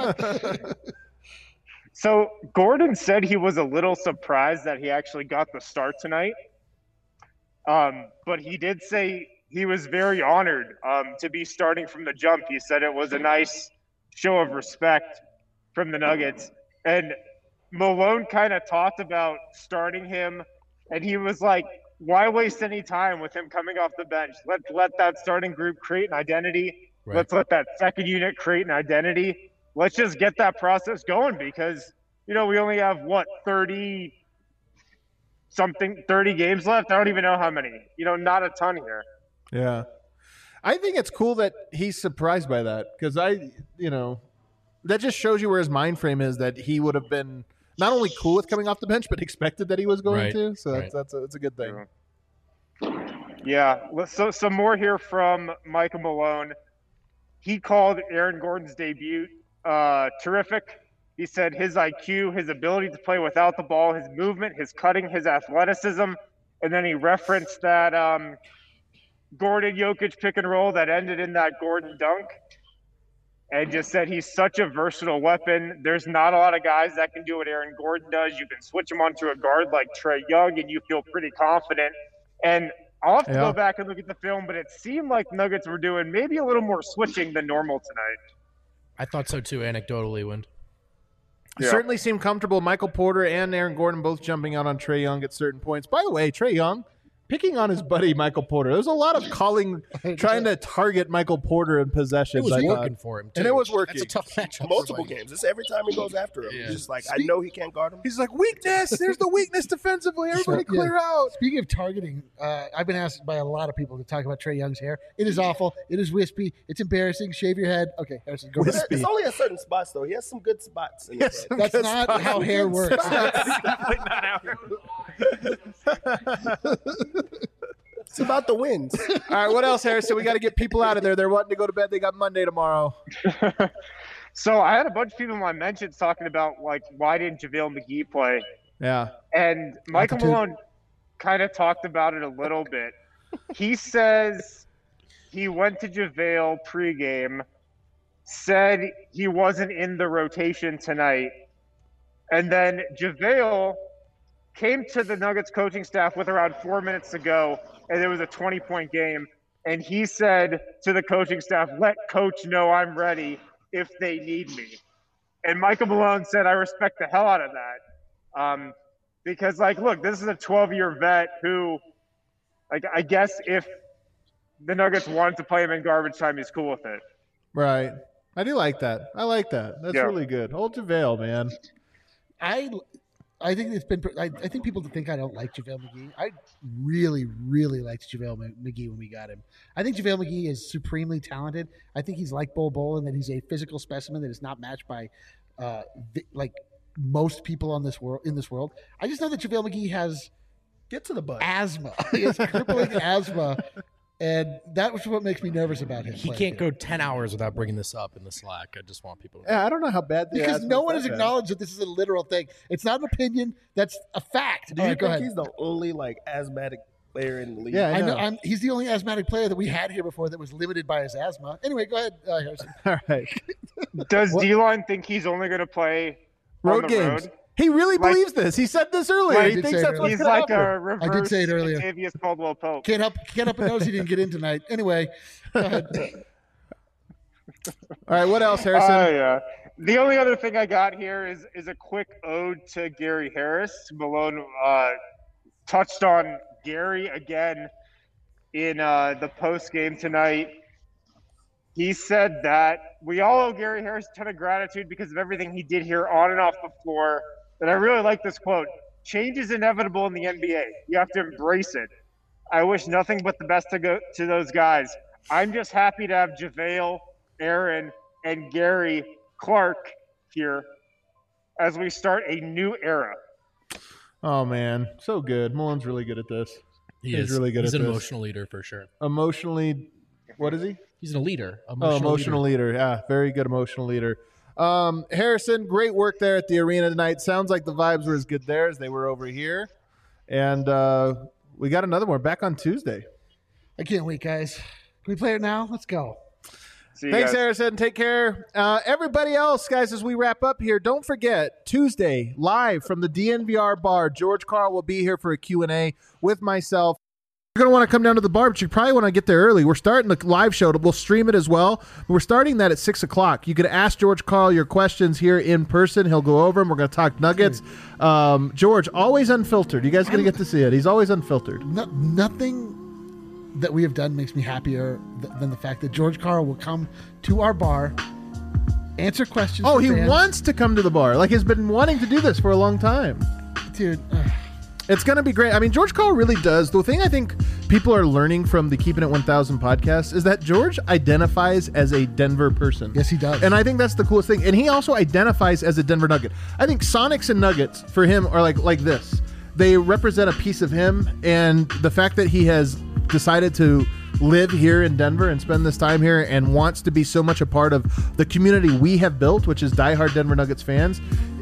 so Gordon said he was a little surprised that he actually got the start tonight. But he did say he was very honored to be starting from the jump. He said it was a nice show of respect from the Nuggets. And Malone kind of talked about starting him, and he was like, why waste any time with him coming off the bench? Let's let that starting group create an identity. Right. Let's let that second unit create an identity. Let's just get that process going because, we only have, 30 games left? I don't even know how many. Not a ton here. Yeah. I think it's cool that he's surprised by that because that just shows you where his mind frame is that he would have been not only cool with coming off the bench, but expected that he was going Right. to. So Right. that's a good thing. Yeah. So some more here from Michael Malone. He called Aaron Gordon's debut terrific. He said his IQ, his ability to play without the ball, his movement, his cutting, his athleticism. And then he referenced that Gordon-Jokic pick and roll that ended in that Gordon dunk. And just said he's such a versatile weapon. There's not a lot of guys that can do what Aaron Gordon does. You can switch him onto a guard like Trae Young, and you feel pretty confident. And I'll have to go back and look at the film, but it seemed like Nuggets were doing maybe a little more switching than normal tonight. I thought so too, anecdotally, Wind. Yeah. Certainly seemed comfortable. Michael Porter and Aaron Gordon both jumping out on Trae Young at certain points. By the way, Trae Young picking on his buddy Michael Porter. There was a lot of trying to target Michael Porter in It possessions. was I thought. working for him, too. And it was working. That's a tough matchup. Multiple games. It's every time he goes after him. Yeah. He's just like, I know he can't guard him. He's like, weakness. There's the weakness defensively. Everybody clear out. Speaking of targeting, I've been asked by a lot of people to talk about Trae Young's hair. It is awful. It is wispy. It's embarrassing. Shave your head. Okay, Harrison, go ahead. It's only at certain spots, though. He has some good spots. In his head. That's not how hair works. It's about the wins. All right, what else, Harrison? We got to get people out of there. They're wanting to go to bed. They got Monday tomorrow. So I had a bunch of people in my mentions talking about, like, why didn't JaVale McGee play? Yeah. And Michael Malone kind of talked about it a little bit. He says he went to JaVale pregame, said he wasn't in the rotation tonight, and then JaVale came to the Nuggets coaching staff with around 4 minutes to go, and it was a 20-point game. And he said to the coaching staff, "Let coach know I'm ready if they need me." And Michael Malone said, "I respect the hell out of that." Because, like, look, this is a 12-year vet who, like, I guess if the Nuggets wanted to play him in garbage time, he's cool with it. Right. I do like that. I like that. That's really good. Old JaVale, man. I think it's been. I think people think I don't like JaVale McGee. I really, really liked JaVale McGee when we got him. I think JaVale McGee is supremely talented. I think he's like Bol Bol in that he's a physical specimen that is not matched by, like most people in this world. I just know that JaVale McGee has asthma. He has crippling asthma. And that was what makes me nervous about him. He can't go 10 hours without bringing this up in the Slack. I just want people to know. Yeah, I don't know how bad the because asthma no is one that has bad. acknowledged that this is a literal thing. It's not an opinion. That's a fact. Do you Go think ahead. he's the only like asthmatic player in the league? Yeah, I know. He's the only asthmatic player that we had here before that was limited by his asthma. Anyway, go ahead, Harrison. All right. Does D-Line think he's only going to play Road on the games. road? He really Like- believes this. He said this earlier. I He did thinks say that's it what's He's going like to happen. a reverse I did say it earlier. Octavius Caldwell Pope. Can't help but notice he didn't get in tonight. Anyway, go ahead. All right, what else, Harrison? Yeah. The only other thing I got here is a quick ode to Gary Harris. Malone touched on Gary again in the post game tonight. He said that we all owe Gary Harris a ton of gratitude because of everything he did here on and off the floor. And I really like this quote: "Change is inevitable in the NBA. You have to embrace it. I wish nothing but the best to those guys. I'm just happy to have JaVale, Aaron, and Gary Clark here as we start a new era." Oh, man. So good. Malone's really good at this. He He's is. really good He's at an this. emotional leader for sure. Emotionally, what is he? He's a leader. Emotional leader. Yeah, very good emotional leader. Harrison, great work there at the arena tonight. Sounds like the vibes were as good there as they were over here. And we got another one back on Tuesday. I can't wait, guys. Can we play it now? Let's go. See you Thanks, guys. Harrison. Take care. Everybody else, guys, as we wrap up here, don't forget, Tuesday, live from the DNVR bar, George Carl will be here for a Q&A with myself. You're going to want to come down to the bar, but you probably want to get there early. We're starting the live show. We'll stream it as well. We're starting that at 6 o'clock. You can ask George Carl your questions here in person. He'll go over them. We're going to talk Nuggets. George, always unfiltered. You guys going to get to see it. He's always unfiltered. Nothing that we have done makes me happier than the fact that George Carl will come to our bar, answer questions. Oh, from he fans. wants to come to the bar. Like, he's been wanting to do this for a long time. Dude, It's going to be great. I mean, George Carl really does. The thing I think people are learning from the Keeping It 1000 podcast is that George identifies as a Denver person. yes, he does. And I think that's the coolest thing. And he also identifies as a Denver Nugget. I think Sonics and Nuggets for him are like this. They represent a piece of him, and the fact that he has decided to live here in Denver and spend this time here and wants to be so much a part of the community we have built, which is diehard Denver Nuggets fans,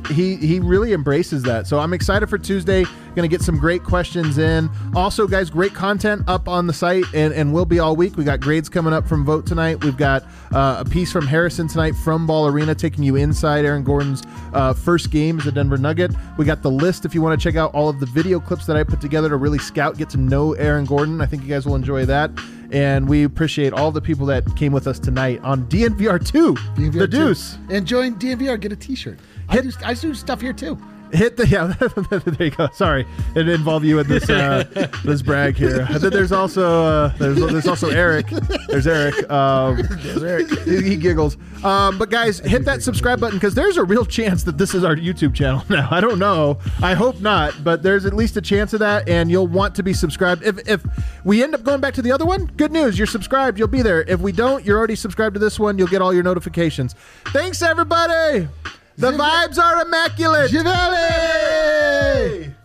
he really embraces that. So I'm excited for Tuesday. Going to get some great questions in. Also, guys, great content up on the site and will be all week. We got grades coming up from Vote tonight. We've got a piece from Harrison tonight from Ball Arena taking you inside Aaron Gordon's first game as a Denver Nugget. We got the list if you want to check out all of the video clips that I put together to really get to know Aaron Gordon. I think you guys will enjoy that. And we appreciate all the people that came with us tonight on DNVR 2, DNVR The 2. Deuce. And join DNVR, get a t-shirt. I do stuff here too. Hit the there you go. Sorry, it involved you in this this brag here. There's also there's also Eric. There's Eric. There's Eric. He giggles. But guys, hit that subscribe button because there's a real chance that this is our YouTube channel now. I don't know. I hope not, but there's at least a chance of that, and you'll want to be subscribed. If we end up going back to the other one, good news. You're subscribed. You'll be there. If we don't, you're already subscribed to this one. You'll get all your notifications. Thanks, everybody. The vibes are immaculate. Javale!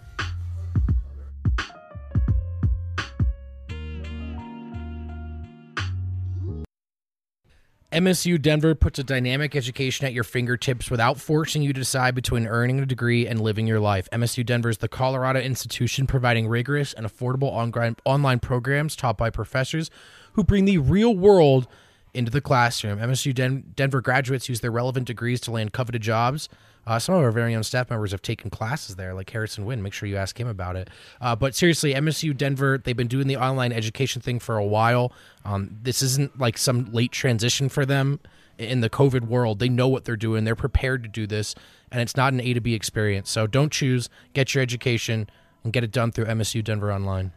MSU Denver puts a dynamic education at your fingertips without forcing you to decide between earning a degree and living your life. MSU Denver is the Colorado institution providing rigorous and affordable online programs taught by professors who bring the real world into the classroom. MSU Denver graduates use their relevant degrees to land coveted jobs Some of our very own staff members have taken classes there, like Harrison Wynn. Make sure you ask him about it. But seriously, MSU Denver, they've been doing the online education thing for a while. This isn't like some late transition for them in the COVID world. They know what they're doing. They're prepared to do this, and it's not an A to B experience. So don't choose. Get your education and get it done through MSU Denver Online.